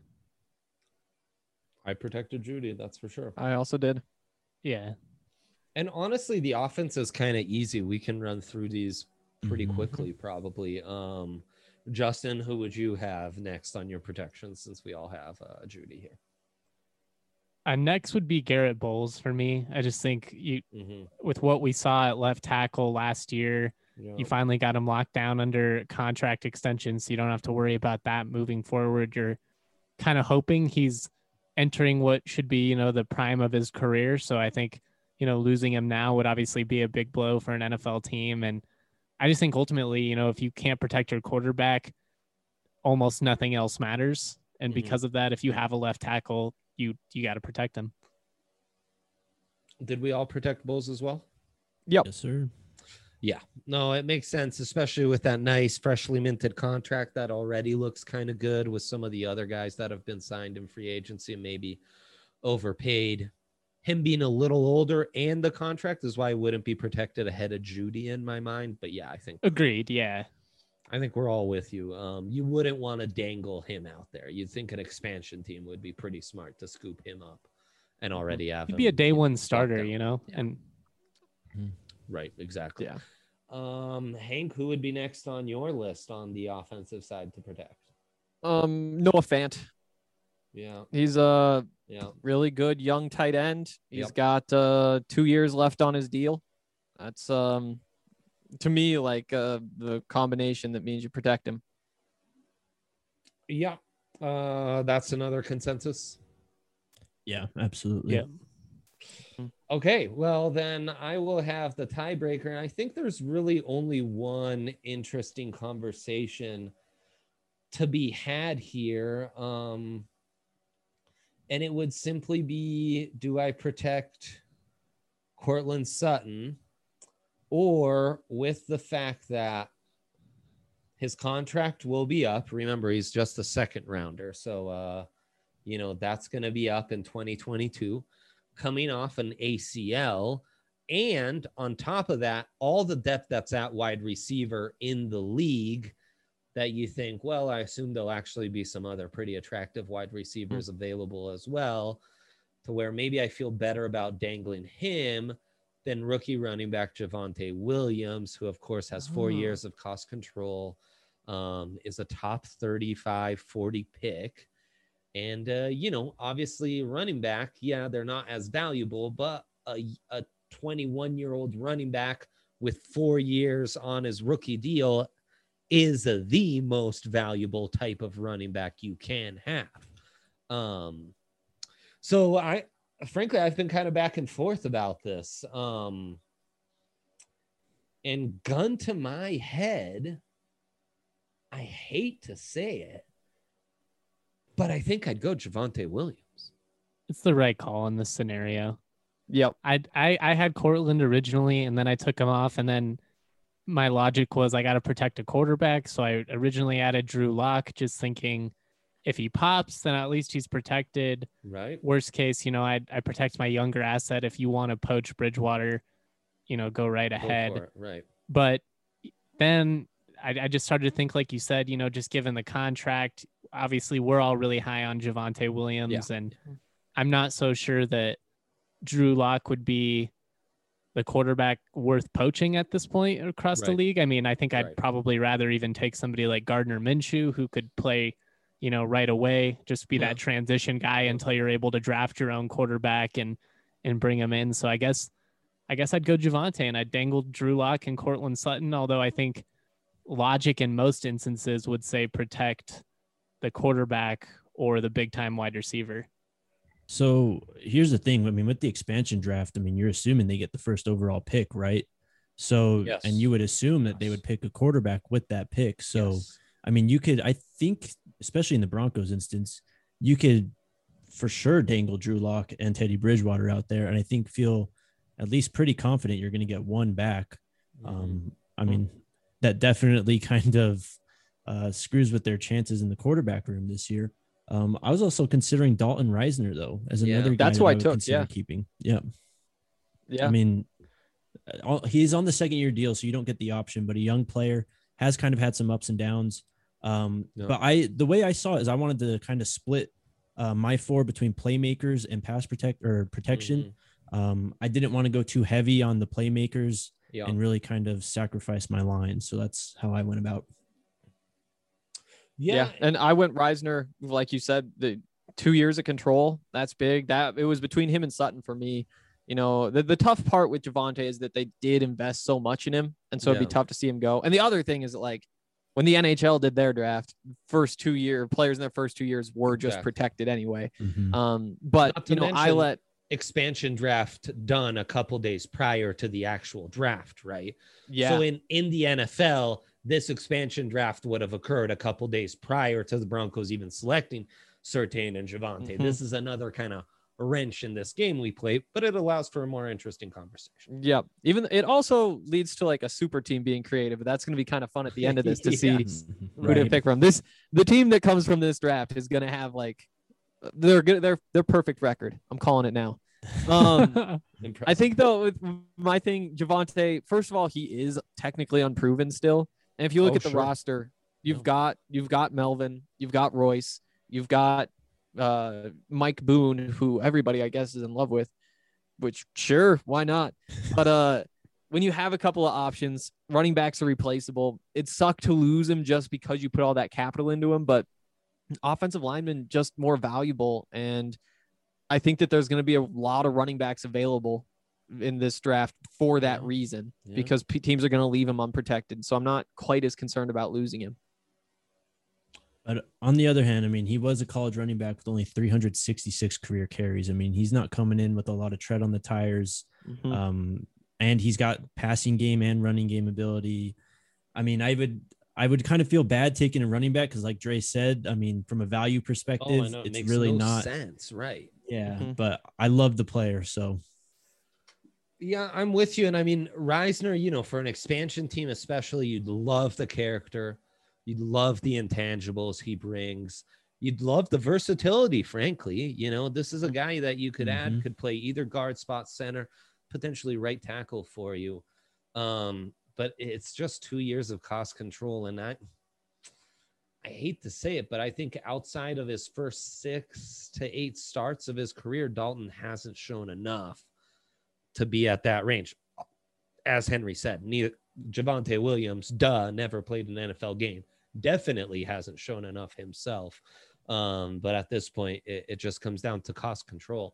A: I protected Jeudy, that's for sure.
D: I also did.
C: Yeah.
A: And honestly, the offense is kind of easy. We can run through these pretty quickly, probably. Justin, who would you have next on your protection, since we all have Jeudy here?
C: Next would be Garrett Bowles for me. I just think with what we saw at left tackle last year, you finally got him locked down under contract extension, so you don't have to worry about that moving forward. You're kind of hoping he's entering what should be, the prime of his career. So I think, losing him now would obviously be a big blow for an NFL team. And I just think ultimately, if you can't protect your quarterback, almost nothing else matters. And because of that, if you have a left tackle, you got to protect him.
A: Did we all protect Bowles as well?
D: Yep.
E: Yes, sir.
A: Yeah. No, it makes sense, especially with that nice freshly minted contract that already looks kind of good, with some of the other guys that have been signed in free agency and maybe overpaid. Him being a little older and the contract is why I wouldn't be protected ahead of Jeudy in my mind. But yeah, I think
C: agreed. Yeah.
A: I think we're all with you. You wouldn't want to dangle him out there. You'd think an expansion team would be pretty smart to scoop him up and already have
C: He'd
A: him
C: be a day one starter,
A: Yeah.
C: and
A: Right, exactly.
D: Yeah.
A: Hank, who would be next on your list on the offensive side to protect?
D: Noah Fant.
A: Yeah.
D: He's a
A: Yeah.
D: really good young tight end. He's
A: Yep.
D: got 2 years left on his deal. That's to me like the combination that means you protect him.
A: Yeah. That's another consensus.
E: Yeah, absolutely.
C: Yeah.
A: Okay, well then I will have the tiebreaker. And I think there's really only one interesting conversation to be had here. And it would simply be, do I protect Courtland Sutton, or with the fact that his contract will be up? Remember, he's just a second rounder. So, that's going to be up in 2022, coming off an ACL. And on top of that, all the depth that's at wide receiver in the league, that you think, well, I assume there'll actually be some other pretty attractive wide receivers available as well, to where maybe I feel better about dangling him than rookie running back Javonte Williams, who of course has 4 years of cost control, is a top 35, 40 pick. And, obviously running back, yeah, they're not as valuable, but a 21-year-old running back with 4 years on his rookie deal is the most valuable type of running back you can have. So I've been kind of back and forth about this. And gun to my head, I hate to say it, but I think I'd go Javonte Williams.
C: It's the right call in this scenario.
D: Yep.
C: I had Cortland originally, and then I took him off, and then my logic was I got to protect a quarterback. So I originally added Drew Lock, just thinking if he pops, then at least he's protected.
A: Right.
C: Worst case, I protect my younger asset. If you want to poach Bridgewater, go right ahead.
A: Go for it. Right.
C: But then I just started to think, like you said, just given the contract, obviously we're all really high on Javonte Williams, and I'm not so sure that Drew Lock would be the quarterback worth poaching at this point across the
A: Right.
C: league. I mean, I think I'd
A: Right.
C: probably rather even take somebody like Gardner Minshew, who could play, right away, just be
A: Yeah.
C: that transition guy until you're able to draft your own quarterback and bring him in. So I guess I'd go Javonte and I'd dangle Drew Lock and Cortland Sutton, although I think logic in most instances would say protect the quarterback or the big time wide receiver.
E: So here's the thing. I mean, with the expansion draft, I mean, you're assuming they get the first overall pick, right? So,
A: Yes.
E: and you would assume that they would pick a quarterback with that pick. So,
A: Yes.
E: I mean, I think, especially in the Broncos instance, you could for sure dangle Drew Lock and Teddy Bridgewater out there. And I think feel at least pretty confident you're going to get one back. I mean, that definitely kind of screws with their chances in the quarterback room this year. I was also considering Dalton Reisner though as
A: Yeah.
E: another guy
D: That's
E: that
D: who I
E: would
D: took,
E: consider
D: yeah.
E: keeping. Yeah.
D: Yeah.
E: I mean, he's on the second year deal, so you don't get the option, but a young player has kind of had some ups and downs. But the way I saw it is I wanted to kind of split my four between playmakers and protection. I didn't want to go too heavy on the playmakers
A: Yeah.
E: and really kind of sacrifice my line. So that's how I went about.
D: Yeah. And I went Reisner, like you said, the 2 years of control. That's big. That it was between him and Sutton for me. The tough part with Javonte is that they did invest so much in him. And so it'd be
A: Yeah.
D: tough to see him go. And the other thing is that, like, when the NHL did their draft, players in their first 2 years were just
A: Exactly.
D: protected anyway.
E: Mhm.
D: But
A: Not to
D: I
A: mention-
D: let
A: expansion draft done a couple days prior to the actual draft, right?
D: yeah.
A: So in the NFL, this expansion draft would have occurred a couple days prior to the Broncos even selecting Surtain and Javonte.
D: Mhm.
A: This is another kind of wrench in this game we play, but it allows for a more interesting conversation.
D: Yeah. Even it also leads to like a super team being creative. But that's going to be kind of fun at the end of this to see
A: Yes.
D: who to pick from. The team that comes from this draft is going to have like they're good. They're perfect record. I'm calling it now. I
A: Impressive.
D: think though, with my thing, Javonte, first of all, he is technically unproven still. And if you look
A: Oh,
D: at the
A: sure.
D: roster, you've got Melvin, you've got Royce, you've got Mike Boone, who everybody I guess is in love with, which sure, why not? But when you have a couple of options, running backs are replaceable. It sucked to lose him just because you put all that capital into him, but offensive linemen just more valuable. And I think that there's going to be a lot of running backs available in this draft for that reason,
A: Yeah.
D: because teams are going to leave him unprotected. So I'm not quite as concerned about losing him.
E: But on the other hand, I mean, he was a college running back with only 366 career carries. I mean, he's not coming in with a lot of tread on the tires. And he's got passing game and running game ability. I mean, I would kind of feel bad taking a running back because, like Dre said, I mean, from a value perspective,
A: I know. It
E: it's
A: makes
E: really
A: no
E: not
A: sense, right?
E: Yeah,
D: Mhm.
E: but I love the player, so
A: Yeah, I'm with you. And I mean, Reisner, for an expansion team, especially, you'd love the character. You'd love the intangibles he brings. You'd love the versatility, frankly. This is a guy that you could add,
E: Mhm.
A: could play either guard, spot, center, potentially right tackle for you. But it's just 2 years of cost control. And I hate to say it, but I think outside of his first 6 to 8 starts of his career, Dalton hasn't shown enough to be at that range. As Henry said, neither Javonte Williams, never played an NFL game. Definitely hasn't shown enough himself. But at this point, it just comes down to cost control.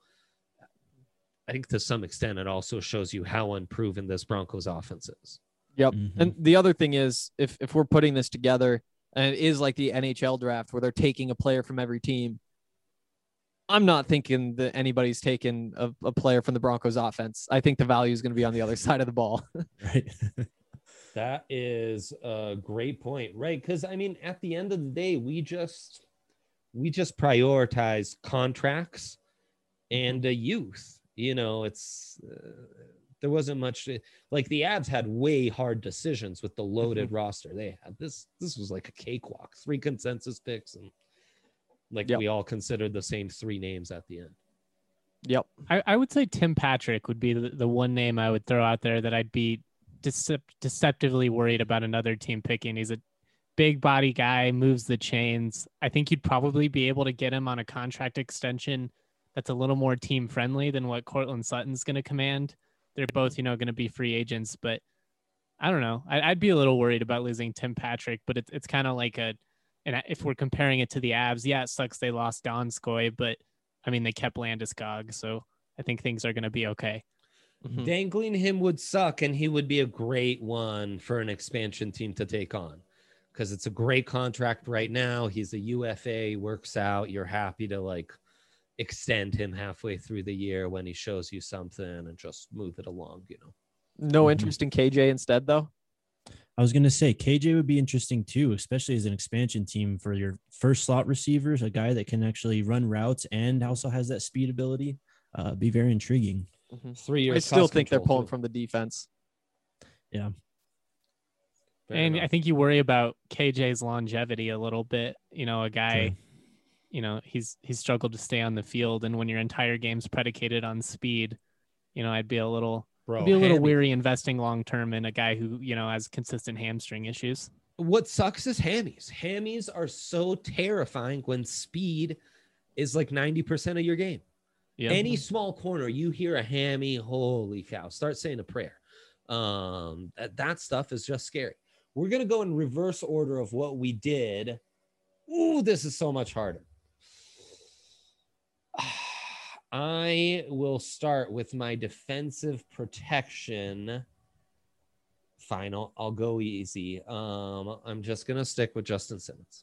A: I think to some extent, it also shows you how unproven this Broncos offense is.
D: Yep.
E: Mhm.
D: And the other thing is, if we're putting this together and it is like the NHL draft where they're taking a player from every team, I'm not thinking that anybody's taking a player from the Broncos offense. I think the value is going to be on the other side of the ball.
E: right.
A: That is a great point, right? Because I mean, at the end of the day, we just prioritize contracts and youth. It's there wasn't much like the Abs had way hard decisions with the loaded roster they had. This was like a cakewalk, 3 consensus picks, and
D: Yep.
A: we all considered the same 3 names at the end.
D: Yep.
C: I would say Tim Patrick would be the one name I would throw out there that I'd be deceptively worried about another team picking. He's a big body guy, moves the chains. I think you'd probably be able to get him on a contract extension that's a little more team friendly than what Cortland Sutton's going to command. they're both, going to be free agents, but I don't know. I'd be a little worried about losing Tim Patrick, but it's kind of like and if we're comparing it to the Avs, yeah, it sucks they lost Donskoy, but I mean, they kept Landeskog, so I think things are going to be okay.
A: Dangling him would suck, and he would be a great one for an expansion team to take on because it's a great contract right now. He's a UFA, works out. You're happy to like extend him halfway through the year when he shows you something and just move it along,
D: No interest in KJ instead, though?
E: I was going to say KJ would be interesting too, especially as an expansion team for your first slot receivers, a guy that can actually run routes and also has that speed ability. Be very intriguing.
A: 3 years.
D: I still think they're pulling from the defense.
E: Yeah.
C: And I think you worry about KJ's longevity a little bit. A guy, he's struggled to stay on the field. And when your entire game's predicated on speed, I'd be a little weary investing long-term in a guy who, has consistent hamstring issues.
A: What sucks is hammies. Hammies are so terrifying when speed is like 90% of your game. Yep. Any small corner, you hear a hammy, holy cow, start saying a prayer. That stuff is just scary. We're going to go in reverse order of what we did. Ooh, this is so much harder. I will start with my defensive protection. Final. I'll go easy. I'm just going to stick with Justin Simmons.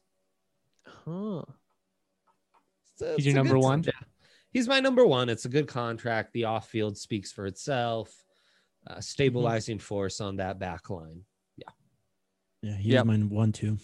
C: He's your number one?
A: Yeah. He's my number one. It's a good contract. The off-field speaks for itself. Stabilizing force on that back line.
E: Yeah, he's my 1-2.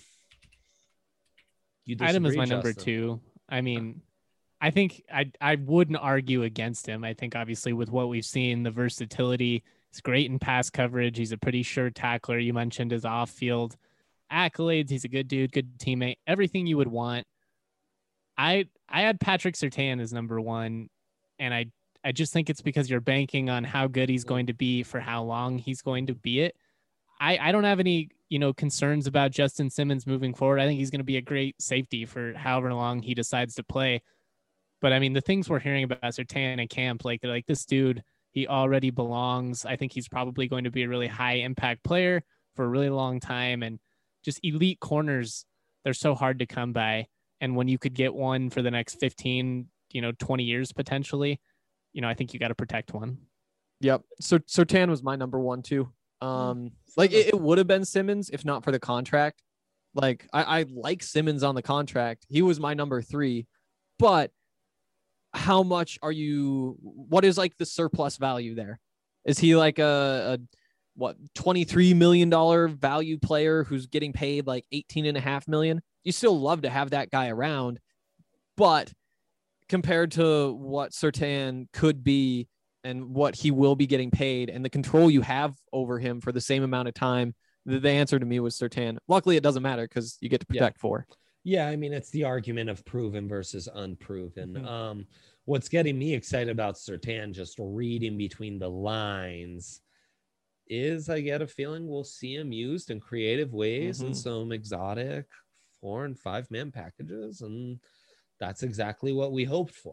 C: Item is my number 2. I mean, I think I wouldn't argue against him. I think obviously with what we've seen, the versatility, he's great in pass coverage. He's a pretty sure tackler. You mentioned his off-field accolades. He's a good dude, good teammate, everything you would want. I had Patrick Surtain as number 1, and I just think it's because you're banking on how good he's going to be for how long he's going to be it. I don't have any, concerns about Justin Simmons moving forward. I think he's going to be a great safety for however long he decides to play. But I mean, the things we're hearing about Surtain in camp, like they're like, this dude, he already belongs. I think he's probably going to be a really high impact player for a really long time. And just elite corners, they're so hard to come by. And when you could get one for the next 15, 20 years potentially, I think you got to protect one.
D: Yep. So Surtain was my number 1 too. It would have been Simmons if not for the contract. Like I like Simmons on the contract. He was my number 3, but how much what is like the surplus value there? Is he like a $23 million value player who's getting paid like $18.5 million? You still love to have that guy around, but compared to what Surtain could be and what he will be getting paid and the control you have over him for the same amount of time, the answer to me was Surtain. Luckily, it doesn't matter because you get to protect 4.
A: Yeah, I mean, it's the argument of proven versus unproven. What's getting me excited about Surtain, just reading between the lines, is I get a feeling we'll see him used in creative ways in some exotic 4- and 5-man packages, and that's exactly what we hoped for.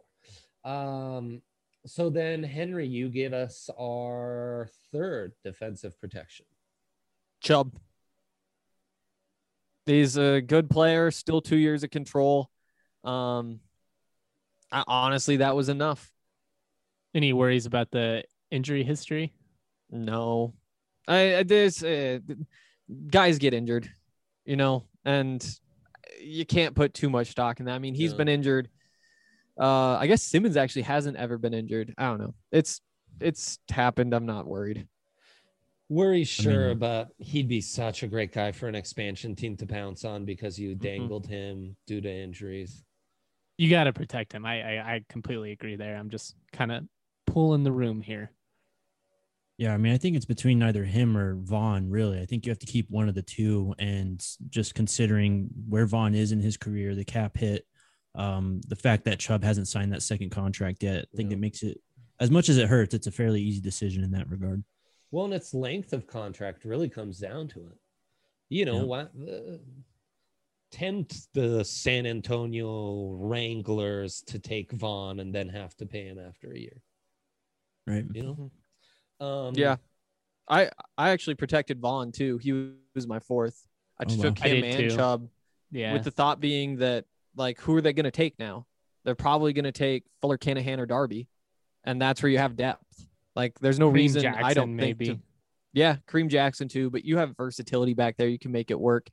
A: So then, Henry, you give us our 3rd defensive protection.
D: Chubb. He's a good player, still 2 years of control. Honestly, that was enough.
C: Any worries about the injury history?
D: No. There's guys get injured, and you can't put too much stock in that. I mean, he's been injured. I guess Simmons actually hasn't ever been injured. I don't know. It's happened. I'm not worried.
A: Sure, but he'd be such a great guy for an expansion team to pounce on because you dangled him due to injuries.
C: You got to protect him. I completely agree there. I'm just kind of pulling the room here.
E: Yeah, I mean, I think it's between either him or Vaughn, really. I think you have to keep one of the two, and just considering where Vaughn is in his career, the cap hit, the fact that Chubb hasn't signed that second contract yet, I think it makes it, as much as it hurts, it's a fairly easy decision in that regard.
A: Well, and its length of contract really comes down to it. What? Tempt the San Antonio Wranglers to take Vaughn and then have to pay him after a year.
E: Right.
D: Yeah. I actually protected Vaughn too. He was my fourth. I
E: Oh, wow.
D: took
C: I
D: him
C: did
D: and
C: too.
D: Chubb
C: Yeah.
D: with the thought being that, like, who are they going to take now? They're probably going to take Fuller, Canahan, or Darby, and that's where you have depth. Like, there's no
C: Kareem
D: reason
C: Jackson,
D: I don't
C: maybe.
D: think to. Yeah, Kareem Jackson too, but you have versatility back there. You can make it work.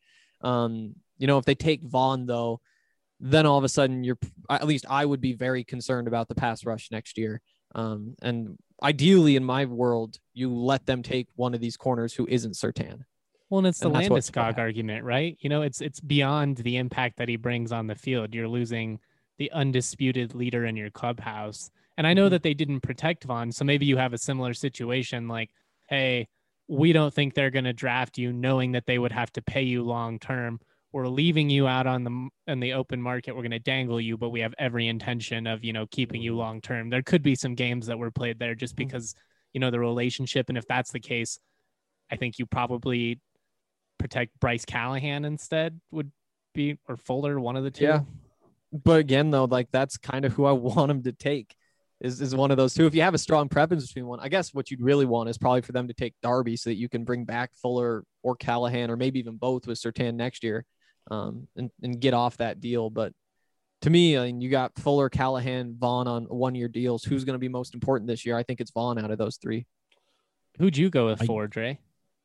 D: If they take Vaughn though, then all of a sudden at least I would be very concerned about the pass rush next year. And ideally in my world, you let them take one of these corners who isn't Surtain.
C: Well, and it's the
D: And that's what
C: Landeskog
D: happened.
C: argument, right? It's beyond the impact that he brings on the field. You're losing the undisputed leader in your clubhouse. And I know that they didn't protect Vaughn, so maybe you have a similar situation like, hey, we don't think they're going to draft you knowing that they would have to pay you long term. We're leaving you out on the open market. We're going to dangle you, but we have every intention of, keeping you long term. There could be some games that were played there just because, the relationship. And if that's the case, I think you probably protect Bryce Callahan instead would be, or Fuller, one of the two.
D: Yeah. But again, though, like that's kind of who I want him to take is one of those two. If you have a strong preference between one, I guess what you'd really want is probably for them to take Darby so that you can bring back Fuller or Callahan or maybe even both with Surtain next year, and get off that deal. But to me, I mean, you got Fuller, Callahan, Vaughn on 1-year deals. Who's going to be most important this year? I think it's Vaughn out of those three.
C: Who'd you go with for, Dre?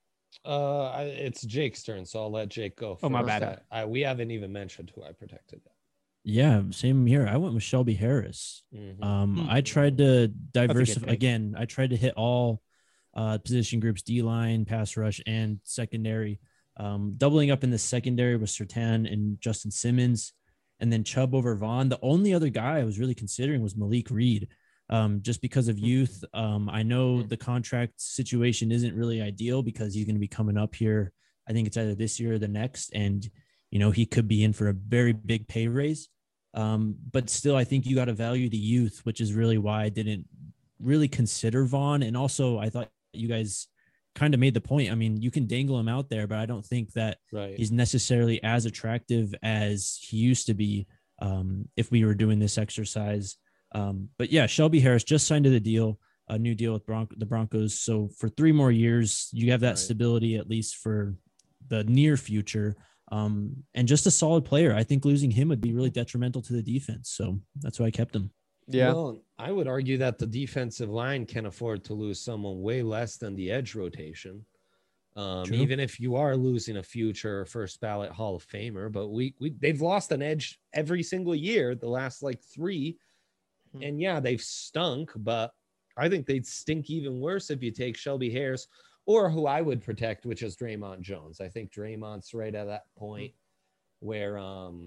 A: It's Jake's turn, so I'll let Jake go first.
C: Oh, my bad.
A: We haven't even mentioned who I protected.
E: Yeah, same here. I went with Shelby Harris. I tried to diversify again. I tried to hit all position groups: D-line, pass rush, and secondary. Doubling up in the secondary was Surtain and Justin Simmons, and then Chubb over Vaughn. The only other guy I was really considering was Malik Reed, just because of youth. I know the contract situation isn't really ideal because he's going to be coming up here. I think it's either this year or the next, and he could be in for a very big pay raise. But still, I think you got to value the youth, which is really why I didn't really consider Vaughn. And also, I thought you guys kind of made the point. I mean, you can dangle him out there, but I don't think that he's necessarily as attractive as he used to be if we were doing this exercise. But yeah, Shelby Harris just signed to the deal, a new deal with the Broncos. So for 3 more years, you have that stability, at least for the near future. And just a solid player. I think losing him would be really detrimental to the defense. So that's why I kept him.
D: Yeah.
A: Well, I would argue that the defensive line can afford to lose someone way less than the edge rotation. Even if you are losing a future first ballot Hall of Famer, but they've lost an edge every single year, the last like 3. And yeah, they've stunk, but I think they'd stink even worse if you take Shelby Harris or who I would protect, which is Draymond Jones. I think Draymond's right at that point where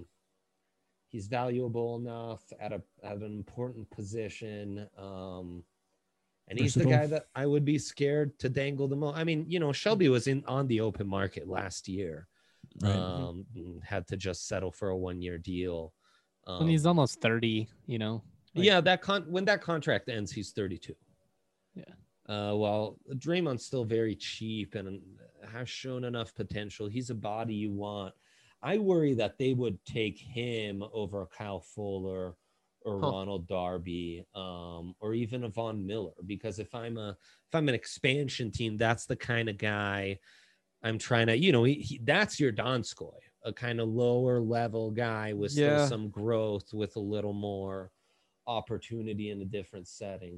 A: he's valuable enough at an important position. And he's the guy that I would be scared to dangle the most. I mean, Shelby was on the open market last year. Had to just settle for a 1-year deal.
C: And he's almost 30,
A: Yeah, when that contract ends, he's 32.
C: Yeah.
A: Well, Draymond's still very cheap and has shown enough potential. He's a body you want. I worry that they would take him over Kyle Fuller or Ronald Darby, or even a Von Miller, because if I'm an expansion team, that's the kind of guy I'm trying to, that's your Donskoy, a kind of lower level guy with still some growth, with a little more opportunity in a different setting.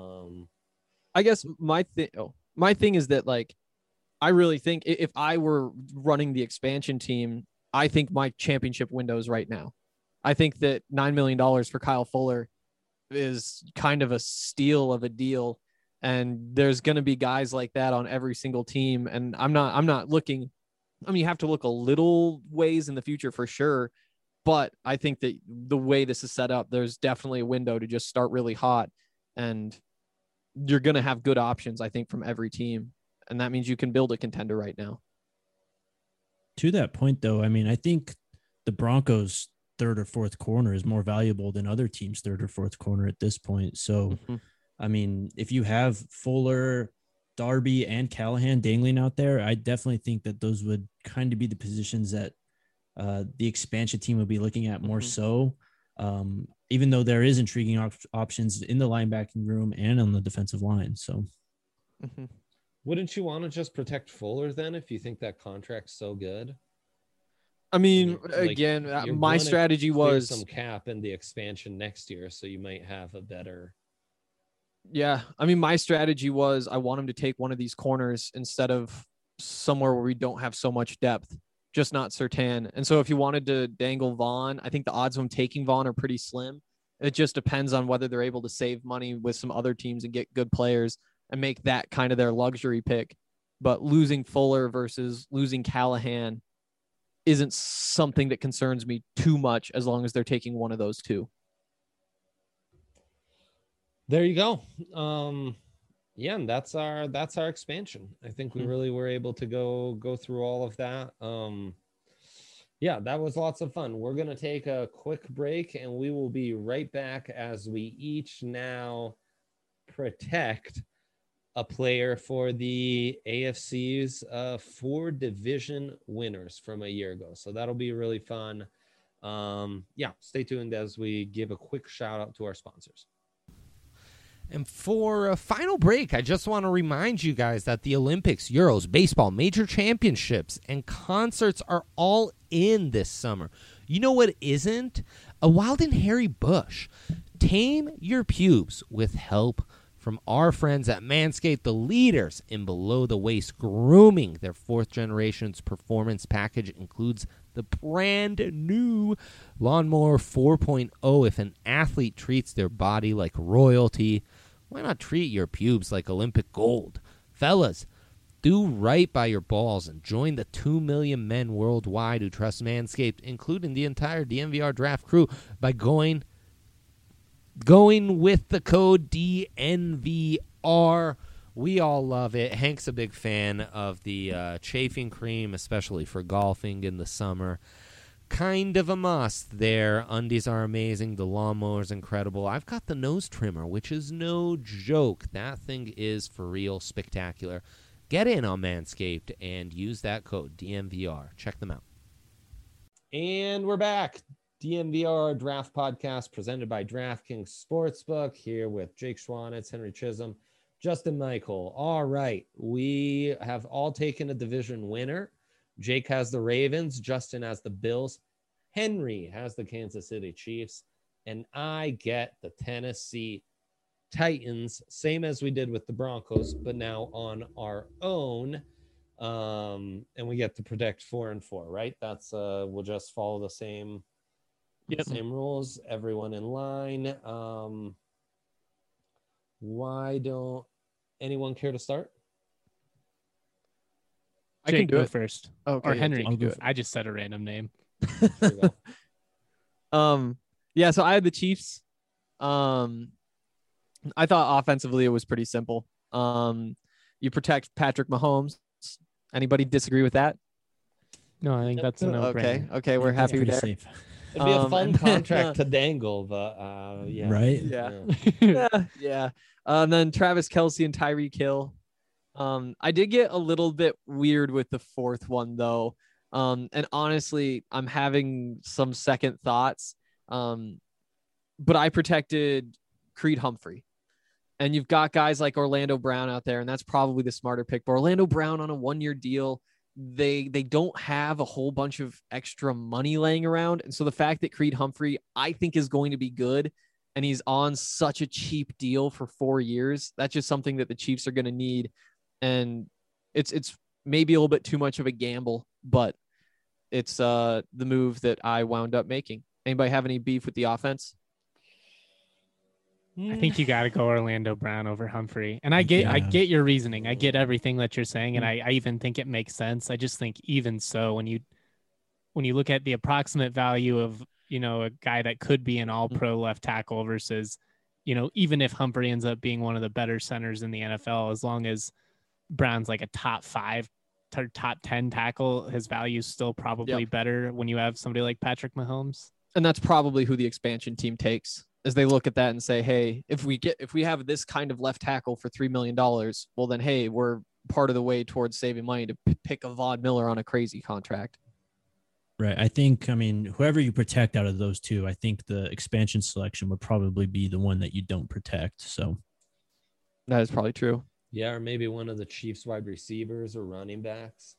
D: I guess my thing is that, like, I really think if I were running the expansion team, I think my championship window is right now. I think that $9 million for Kyle Fuller is kind of a steal of a deal. And there's going to be guys like that on every single team. And I'm not looking, you have to look a little ways in the future for sure. But I think that the way this is set up, there's definitely a window to just start really hot, and you're going to have good options, I think, from every team. And that means you can build a contender right now.
E: To that point, though, I mean, I think the Broncos' 3rd or 4th corner is more valuable than other teams' 3rd or 4th corner at this point. So, I mean, if you have Fuller, Darby, and Callahan dangling out there, I definitely think that those would kind of be the positions that the expansion team would be looking at more so. Even though there is intriguing options in the linebacking room and on the defensive line. So,
D: Mhm.
A: Wouldn't you want to just protect Fuller then if you think that contract's so good?
D: I mean,
A: Like,
D: again,
A: you're
D: my
A: gonna
D: strategy
A: clear
D: was
A: some cap in the expansion next year, so you might have a better.
D: yeah. I mean, my strategy was I want him to take one of these corners instead of somewhere where we don't have so much depth, just not Sertan. And so if you wanted to dangle Vaughn, I think the odds of him taking Vaughn are pretty slim. It just depends on whether they're able to save money with some other teams and get good players and make that kind of their luxury pick. But losing Fuller versus losing Callahan isn't something that concerns me too much as long as they're taking one of those two.
A: There you go. Yeah, and that's our expansion. I think we really were able to go through all of that. Yeah, that was lots of fun. We're gonna take a quick break and we will be right back as we each now protect a player for the AFC's 4 division winners from a year ago. So that'll be really fun. Yeah, stay tuned as we give a quick shout out to our sponsors. And for a final break, I just want to remind you guys that the Olympics, Euros, baseball, major championships, and concerts are all in this summer. You know what isn't? A wild and hairy bush. Tame your pubes with help from our friends at Manscaped, the leaders in below-the-waist grooming. Their 4th generation's performance package includes the brand new Lawnmower 4.0. If an athlete treats their body like royalty, why not treat your pubes like Olympic gold? Fellas, do right by your balls and join the 2 million men worldwide who trust Manscaped, including the entire DNVR draft crew, by going with the code DNVR. We all love it. Hank's a big fan of the chafing cream, especially for golfing in the summer. Kind of a must there. Undies are amazing. The lawnmower is incredible. I've got the nose trimmer, which is no joke. That thing is for real spectacular. Get in on Manscaped and use that code DNVR. Check them out. And we're back. DNVR Draft Podcast presented by DraftKings Sportsbook, here with Jake Schwanitz, Henry Chisholm, Justin Michael. All right. We have all taken a division winner. Jake has the Ravens. Justin has the Bills. Henry has the Kansas City Chiefs. And I get the Tennessee Titans, same as we did with the Broncos, but now on our own. And we get to protect 4 and 4, right? That's we'll just follow the same same rules, everyone in line. Why don't anyone care to start?
C: I can do it first.
D: Okay,
C: or Henry
D: yeah,
C: can do it. I just said a random name.
D: Yeah, so I had the Chiefs. I thought offensively it was pretty simple. You protect Patrick Mahomes. Anybody disagree with that?
C: No, I think that's a no-brainer.
D: Okay, we're happy with that.
E: Safe.
A: It'd be a fun contract to dangle, but yeah.
E: Right?
D: Yeah. And then Travis Kelce and Tyreek Hill. I did get a little bit weird with the 4th one, though. And honestly, I'm having some second thoughts. But I protected Creed Humphrey. And you've got guys like Orlando Brown out there, and that's probably the smarter pick. But Orlando Brown on a 1-year deal, they don't have a whole bunch of extra money laying around. And so the fact that Creed Humphrey, I think, is going to be good, and he's on such a cheap deal for 4 years, that's just something that the Chiefs are going to need. And it's maybe a little bit too much of a gamble, but it's the move that I wound up making. Anybody have any beef with the offense?
C: I think you got to go Orlando Brown over Humphrey. And I get your reasoning. I get everything that you're saying. And I even think it makes sense. I just think even so, when you look at the approximate value of, a guy that could be an all-pro left tackle versus, even if Humphrey ends up being one of the better centers in the NFL, as long as Brown's like a top 5 to top 10 tackle, his value is still probably better when you have somebody like Patrick Mahomes.
D: And that's probably who the expansion team takes, as they look at that and say, hey, if we have this kind of left tackle for $3 million, well then, hey, we're part of the way towards saving money to pick a Von Miller on a crazy contract.
E: Right. I think, whoever you protect out of those two, I think the expansion selection would probably be the one that you don't protect. So
D: that is probably true.
A: Yeah, or maybe one of the Chiefs wide receivers or running backs.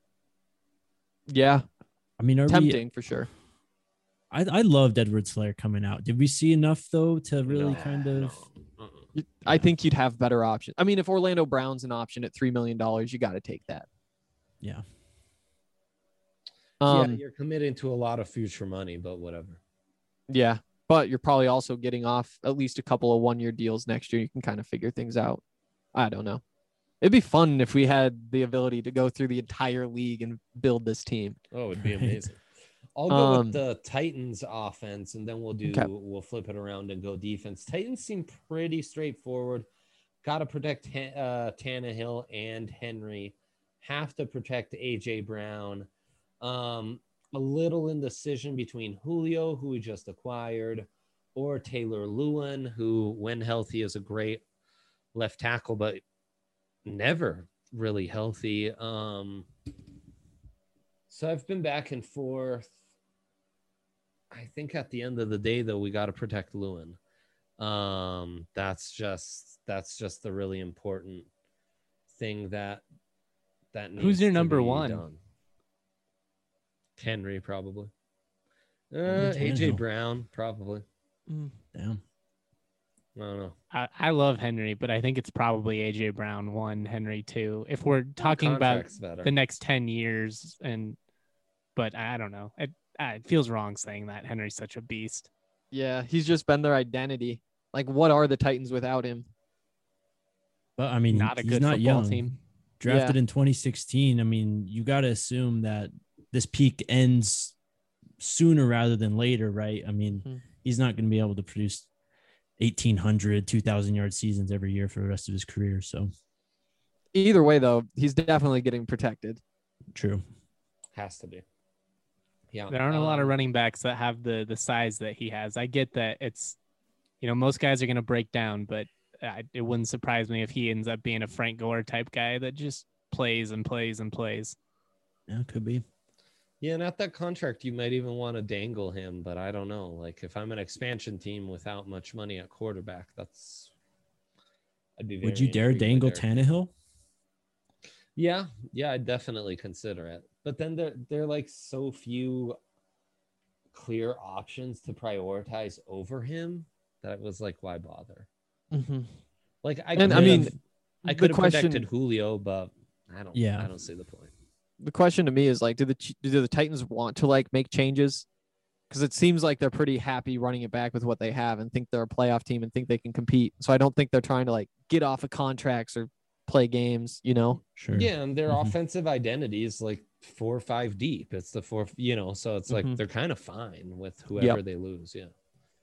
D: Yeah,
E: I mean,
D: tempting for sure.
E: I loved Edwards-Helaire coming out. Did we see enough though to really kind of?
A: No.
D: I think you'd have better options. I mean, if Orlando Brown's an option at $3 million, you got to take that.
E: Yeah.
A: Yeah, you're committing to a lot of future money, but whatever.
D: Yeah, but you're probably also getting off at least a couple of one-year deals next year. You can kind of figure things out. I don't know. It'd be fun if we had the ability to go through the entire league and build this team.
A: Oh, it'd be amazing. I'll go with the Titans offense, and then we'll flip it around and go defense. Titans seem pretty straightforward. Got to protect Tannehill and Henry. Have to protect AJ Brown. A little indecision between Julio, who we just acquired, or Taylor Lewin, who, when healthy, is a great left tackle, but never really healthy. So I've been back and forth. I think at the end of the day, though, we got to protect Lewin. That's just the really important thing that needs
C: Who's your
A: to
C: number
A: be
C: one?
A: done. Henry, probably.
E: Tannehill.
A: AJ Brown, probably.
E: Damn.
A: I don't know.
C: I love Henry, but I think it's probably AJ Brown 1, Henry 2. If we're talking about
A: Contract's better.
C: the next 10 years, but I don't know. It feels wrong saying that Henry's such a beast.
D: Yeah, he's just been their identity. Like, what are the Titans without him?
E: But I mean,
C: Not a
E: he's
C: good
E: not
C: football
E: young.
C: team.
E: Drafted
D: Yeah.
E: in 2016. I mean, you got to assume that this peak ends sooner rather than later, right? I mean,
D: Mhm.
E: he's not going to be able to produce 1,800, 2,000 yard seasons every year for the rest of his career. So
D: Either way, though, he's definitely getting protected.
E: true.
A: Has to be. Yeah.
C: There aren't a lot of running backs that have the size that he has. I get that it's, most guys are going to break down, but it wouldn't surprise me if he ends up being a Frank Gore type guy that just plays and plays and plays.
E: Yeah, could be.
A: Yeah, and at that contract, you might even want to dangle him, but I don't know. Like, if I'm an expansion team without much money at quarterback, I'd be very
E: Would you dare
A: intrigued by
E: dangle
A: Derrick.
E: Tannehill?
A: Yeah, I'd definitely consider it. But then there are like so few clear options to prioritize over him that it was like, why bother?
D: Mm-hmm.
A: Like, I
D: And
A: could
D: the
A: have
D: question,
A: protected Julio, but I don't see the point.
D: the question to me is like, do the Titans want to like make changes? Because it seems like they're pretty happy running it back with what they have and think they're a playoff team and think they can compete. So I don't think they're trying to like get off of contracts or play games,
E: Sure.
A: Yeah, and their
E: Mhm.
A: offensive identity is like 4 or 5 deep. It's the 4, so it's like
D: Mhm.
A: they're kind of fine with whoever they lose. Yeah.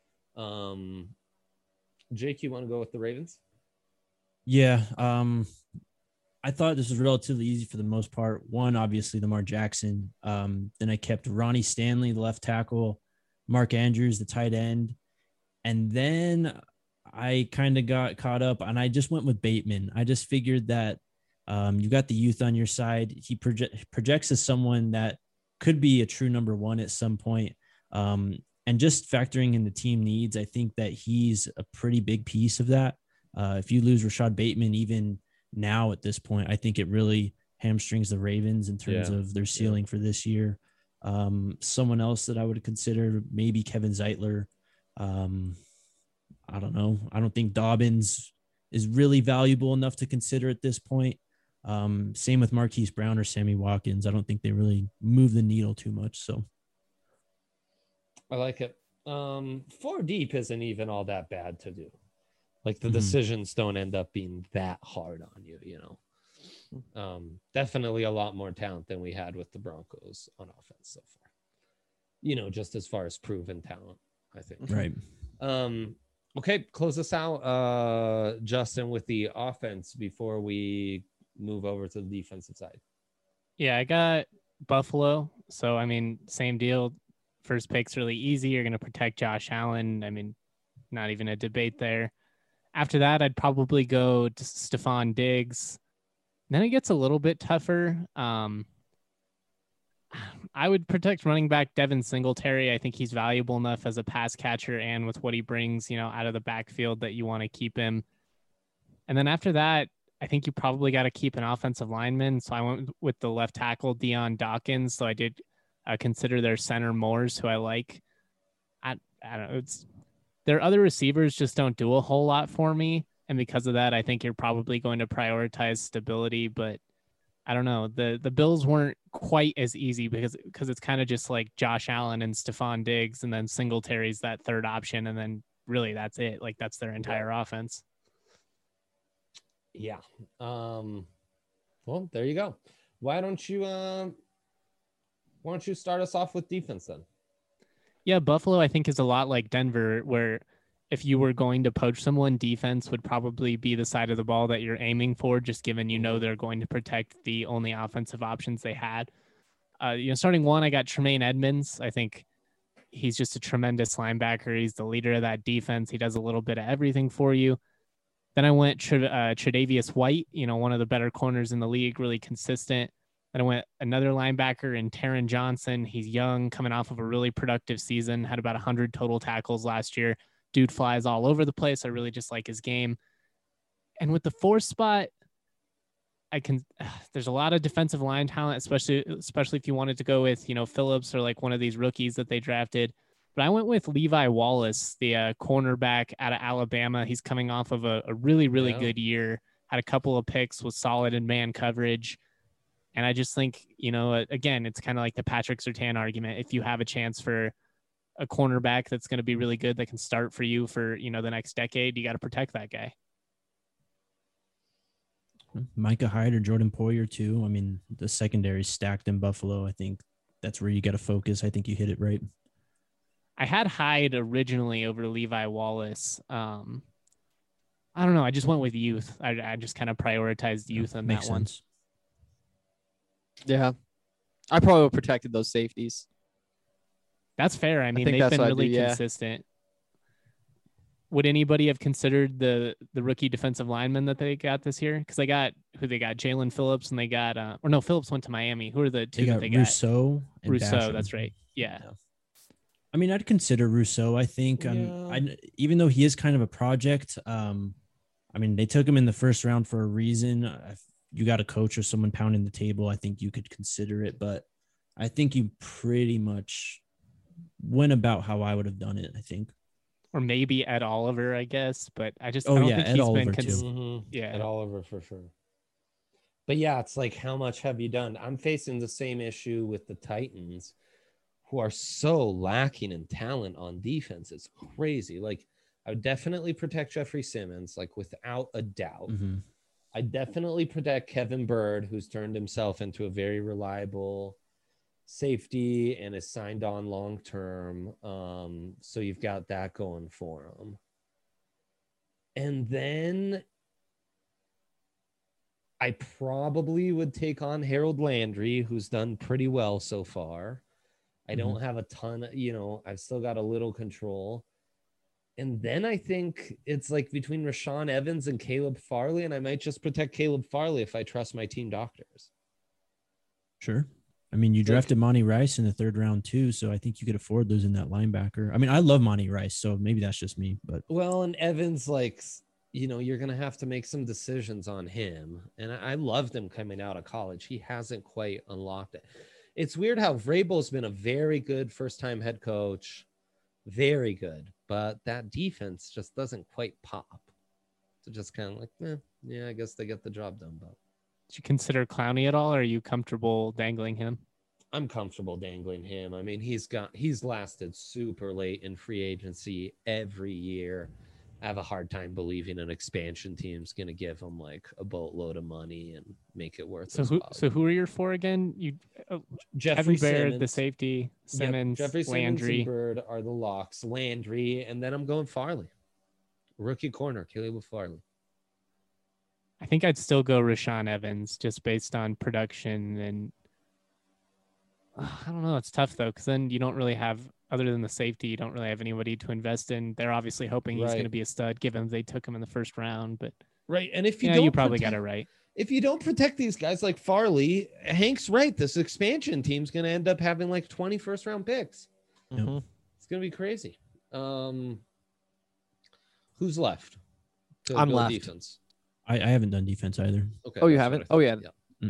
A: Jake, you want to go with the Ravens?
E: Yeah. I thought this was relatively easy for the most part. One, obviously, Lamar Jackson. Then I kept Ronnie Stanley, the left tackle, Mark Andrews, the tight end. And then I kind of got caught up and I just went with Bateman. I just figured that you got the youth on your side. He projects as someone that could be a true number one at some point. And just factoring in the team needs, I think that he's a pretty big piece of that. If you lose Rashad Bateman, even now at this point, I think it really hamstrings the Ravens in terms of their ceiling for this year. Someone else that I would consider, maybe Kevin Zeitler. I don't know. I don't think Dobbins is really valuable enough to consider at this point. Same with Marquise Brown or Sammy Watkins. I don't think they really move the needle too much. So
A: I like it. 4 deep isn't even all that bad to do. Like, the decisions don't end up being that hard on you, Definitely a lot more talent than we had with the Broncos on offense so far. Just as far as proven talent, I think.
E: right.
A: Okay, close us out, Justin, with the offense before we move over to the defensive side.
C: Yeah, I got Buffalo. So, I mean, same deal. First pick's really easy. You're going to protect Josh Allen. I mean, not even a debate there. After that, I'd probably go to Stephon Diggs. Then it gets a little bit tougher. I would protect running back Devin Singletary. I think he's valuable enough as a pass catcher and with what he brings, out of the backfield that you want to keep him. And then after that, I think you probably got to keep an offensive lineman. So I went with the left tackle, Deion Dawkins. So I did consider their center Moores, who I like. I don't know. Their other receivers just don't do a whole lot for me. And because of that, I think you're probably going to prioritize stability. But I don't know. The Bills weren't quite as easy because it's kind of just like Josh Allen and Stephon Diggs, and then Singletary's that third option. And then really that's it. Like that's their entire offense.
A: Yeah. Well, there you go. Why don't you start us off with defense then?
C: Yeah, Buffalo, I think, is a lot like Denver, where if you were going to poach someone, defense would probably be the side of the ball that you're aiming for, just given they're going to protect the only offensive options they had. Starting one, I got Tremaine Edmonds. I think he's just a tremendous linebacker. He's the leader of that defense. He does a little bit of everything for you. Then I went Tre'Davious White, one of the better corners in the league, really consistent. Then I went another linebacker in Taron Johnson. He's young, coming off of a really productive season, had about 100 total tackles last year. Dude flies all over the place. I really just like his game. And with the fourth spot, there's a lot of defensive line talent, especially if you wanted to go with, Phillips or like one of these rookies that they drafted. But I went with Levi Wallace, the cornerback out of Alabama. He's coming off of a really, really good year, had a couple of picks, was solid in man coverage. And I just think, again, it's kind of like the Patrick Surtain argument. If you have a chance for a cornerback that's going to be really good, that can start for you for, the next decade, you got to protect that guy.
E: Micah Hyde or Jordan Poyer too. I mean, the secondary stacked in Buffalo. I think that's where you got to focus. I think you hit it right.
C: I had Hyde originally over Levi Wallace. I don't know. I just went with youth. I just kind of prioritized youth on that one.
D: Yeah. I probably would have protected those safeties.
C: That's fair. I mean, they've been really consistent. Would anybody have considered the rookie defensive lineman that they got this year? Because they got Jalen Phillips, and they got Phillips went to Miami. Who are the two that they got?
E: Rousseau.
C: Rousseau, that's right. Yeah.
E: I mean, I'd consider Rousseau. I think, even though he is kind of a project, I mean, they took him in the first round for a reason. If you got a coach or someone pounding the table, I think you could consider it. But I think you pretty much went about how I would have done it, I think.
C: Or maybe Ed Oliver, I guess. But I don't think
E: Ed
C: he's
E: Oliver
C: been
E: too.
A: Yeah, Ed Oliver for sure. But yeah, it's like, how much have you done? I'm facing the same issue with the Titans, who are so lacking in talent on defense. It's crazy. Like, I would definitely protect Jeffrey Simmons, like without a doubt.
E: Mm-hmm.
A: I definitely protect Kevin Byrd, who's turned himself into a very reliable safety and is signed on long-term. So you've got that going for him. And then I probably would take on Harold Landry, who's done pretty well so far. I don't have a ton, I've still got a little control. And then I think it's like between Rashaan Evans and Caleb Farley, and I might just protect Caleb Farley if I trust my team doctors.
E: Sure. I mean, you drafted Monty Rice in the third round too, so I think you could afford losing that linebacker. I mean, I love Monty Rice, so maybe that's just me. But
A: and Evans, like, you're going to have to make some decisions on him. And I loved him coming out of college. He hasn't quite unlocked it. It's weird how Vrabel's been a very good first-time head coach, very good, but that defense just doesn't quite pop. So just kind of like, I guess they get the job done. But
C: did you consider Clowney at all, or are you comfortable dangling him?
A: I'm comfortable dangling him. I mean, he's lasted super late in free agency every year. I have a hard time believing an expansion team's going to give him like a boatload of money and make it worth it.
C: So who are your four again?
A: Jeffrey
C: Kevin Byrd,
A: Simmons,
C: the safety, Simmons,
A: Jeffrey Simmons
C: Landry.
A: and Byrd are the locks. Landry, and then I'm going Farley. Rookie corner, Caleb Farley.
C: I think I'd still go Rashaan Evans just based on production. And I don't know. It's tough, though, because then you don't really have, other than the safety, you don't really have anybody to invest in. They're obviously hoping he's going to be a stud, given they took him in the first round. But
A: and if you
C: probably got it right.
A: If you don't protect these guys like Farley, Hank's right. This expansion team's going to end up having like 20 first-round picks.
D: Mm-hmm.
A: It's going to be crazy. Who's left?
D: I'm left.
A: Defense.
E: I haven't done defense either.
A: Okay.
D: Oh, you
A: that's what
D: haven't?
A: I thought.
D: Oh, yeah.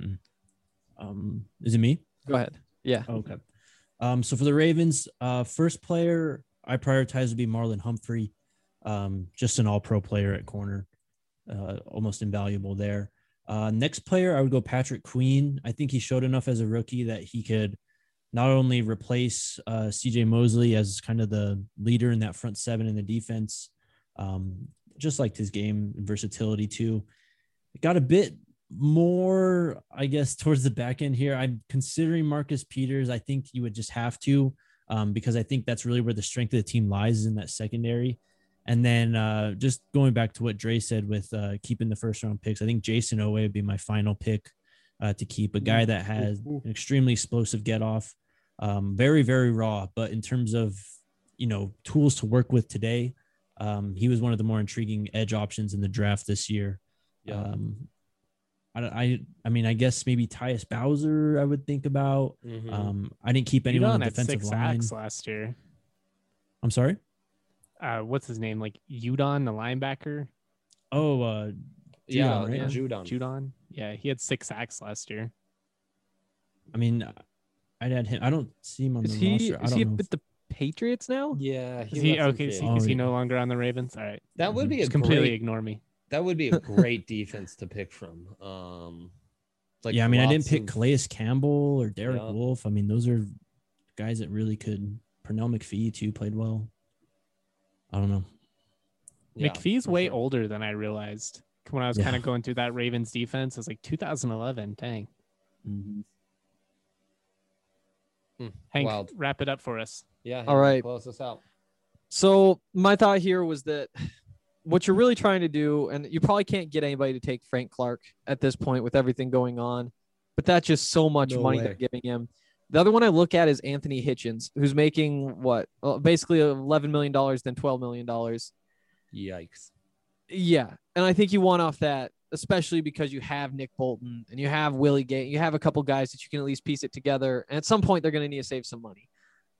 E: Is it me?
D: Go ahead. Yeah.
E: Okay. So for the Ravens, first player I prioritize would be Marlon Humphrey. Just an all-pro player at corner, almost invaluable there. Next player, I would go Patrick Queen. I think he showed enough as a rookie that he could not only replace CJ Mosley as kind of the leader in that front seven in the defense, just liked his game and versatility too. It got a bit more, I guess, towards the back end here. I'm considering Marcus Peters. I think you would just have to, because I think that's really where the strength of the team lies, is in that secondary. And then just going back to what Dre said with keeping the first round picks, I think Jason Owe would be my final pick to keep, a guy that has an extremely explosive get off, very, very raw. But in terms of, tools to work with today, he was one of the more intriguing edge options in the draft this year.
A: Yeah.
E: I mean, I guess maybe Tyus Bowser I would think about. I didn't keep anyone on the defensive line
C: last year.
E: I'm sorry?
C: What's his name? Like Udon, the linebacker?
E: Oh,
A: Yeah,
E: Judon, right?
C: Judon. Yeah, he had 6 sacks last year.
E: I mean, I'd add him. I don't see him on
D: Is
E: the
D: he
E: roster. I don't know.
D: with the Patriots now?
A: Yeah.
C: Is he
A: left
C: okay?
A: in
C: Is
A: Philly.
C: he no longer on the Ravens? All right.
A: That would be a
C: Just completely
A: great.
C: ignore me.
A: That would be a great defense to pick from. Like
E: Yeah, I mean, I didn't
A: lots
E: pick
A: of-
E: Calais Campbell or Derek
A: Yeah.
E: Wolf. I mean, those are guys that really could. Pernell McPhee too played well. I don't know.
A: Yeah,
C: McPhee's
A: for
C: way
A: sure.
C: older than I realized when I was
E: Yeah.
C: kind of going through that Ravens defense. It was like 2011. Dang. Hank,
A: Wild.
C: wrap it up for us.
A: Yeah.
D: All right.
A: Close us out.
D: So my thought here was that what you're really trying to do, and you probably can't get anybody to take Frank Clark at this point with everything going on, but that's just so much
A: No
D: money
A: way.
D: they're giving him. The other one I look at is Anthony Hitchens, who's making what? Basically $11 million, then $12 million.
A: Yikes.
D: Yeah. And I think you want off that, especially because you have Nick Bolton and you have Willie Gay. You have a couple guys that you can at least piece it together. And at some point, they're going to need to save some money.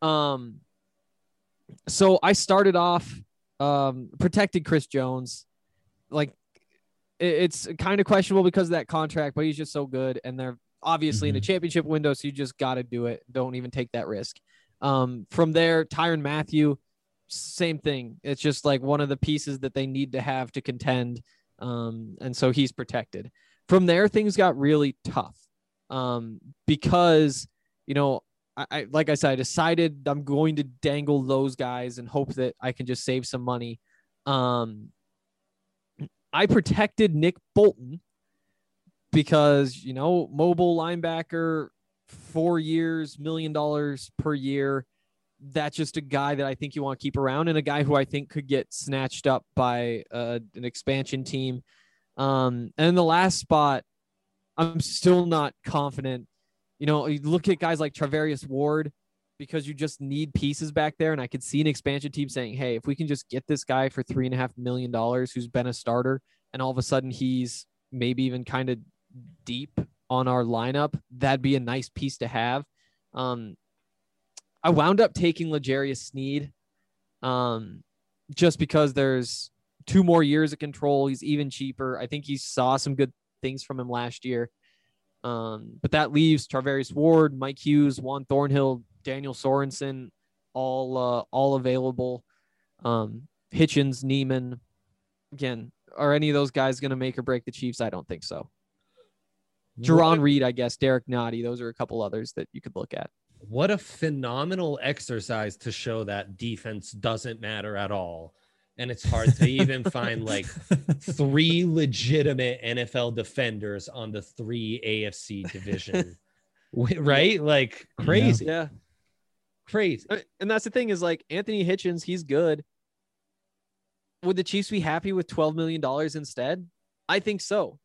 D: So I started off protected Chris Jones. Like, it's kind of questionable because of that contract, but he's just so good. And they're obviously in a championship window, so you just got to do it. Don't even take that risk. From there, Tyrann Mathieu, same thing. It's just like one of the pieces that they need to have to contend. And so he's protected. From there, things got really tough because, I like I said, I decided I'm going to dangle those guys and hope that I can just save some money. I protected Nick Bolton because, mobile linebacker, 4 years, $1 million per year. That's just a guy that I think you want to keep around, and a guy who I think could get snatched up by an expansion team. And in the last spot, I'm still not confident. You look at guys like Travarius Ward, because you just need pieces back there. And I could see an expansion team saying, hey, if we can just get this guy for $3.5 million, who's been a starter, and all of a sudden he's maybe even kind of deep on our lineup, that'd be a nice piece to have. I wound up taking L'Jarius Sneed just because there's 2 more years of control. He's even cheaper. I think he saw some good things from him last year. But that leaves Travarius Ward, Mike Hughes, Juan Thornhill, Daniel Sorensen, all available. Hitchens, Neiman. Again, are any of those guys going to make or break the Chiefs? I don't think so. Jerron Reed, I guess, Derek Nottie. Those are a couple others that you could look at.
A: What a phenomenal exercise to show that defense doesn't matter at all. And it's hard to even find like 3 legitimate NFL defenders on the 3 AFC division. Right? Like crazy.
D: Yeah.
A: Crazy.
D: And that's the thing is like Anthony Hitchens, he's good. Would the Chiefs be happy with $12 million instead? I think so.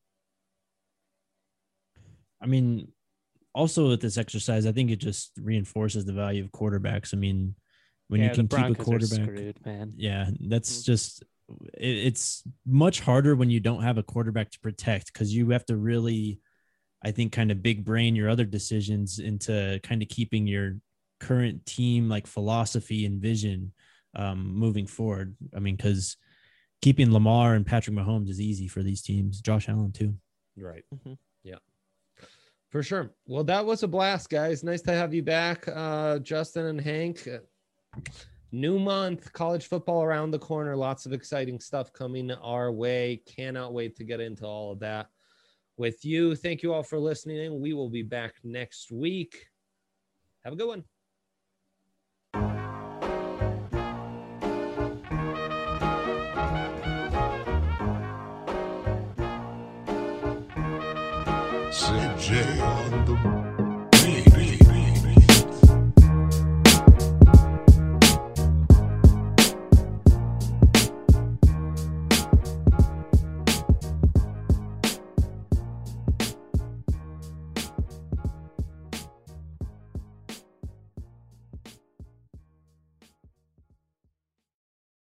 E: I mean, also with this exercise, I think it just reinforces the value of quarterbacks. I mean, when you can keep a quarterback,
C: screwed, man.
E: yeah, that's just it's much harder when you don't have a quarterback to protect, because you have to really, I think, kind of big brain your other decisions into kind of keeping your current team like philosophy and vision moving forward. I mean, because keeping Lamar and Patrick Mahomes is easy for these teams. Josh Allen too.
A: Right.
D: Mhm.
A: Yeah. For sure. Well, that was a blast, guys. Nice to have you back, Justin and Hank. New month, college football around the corner. Lots of exciting stuff coming our way. Cannot wait to get into all of that with you. Thank you all for listening. We will be back next week. Have a good one.
B: CJ on the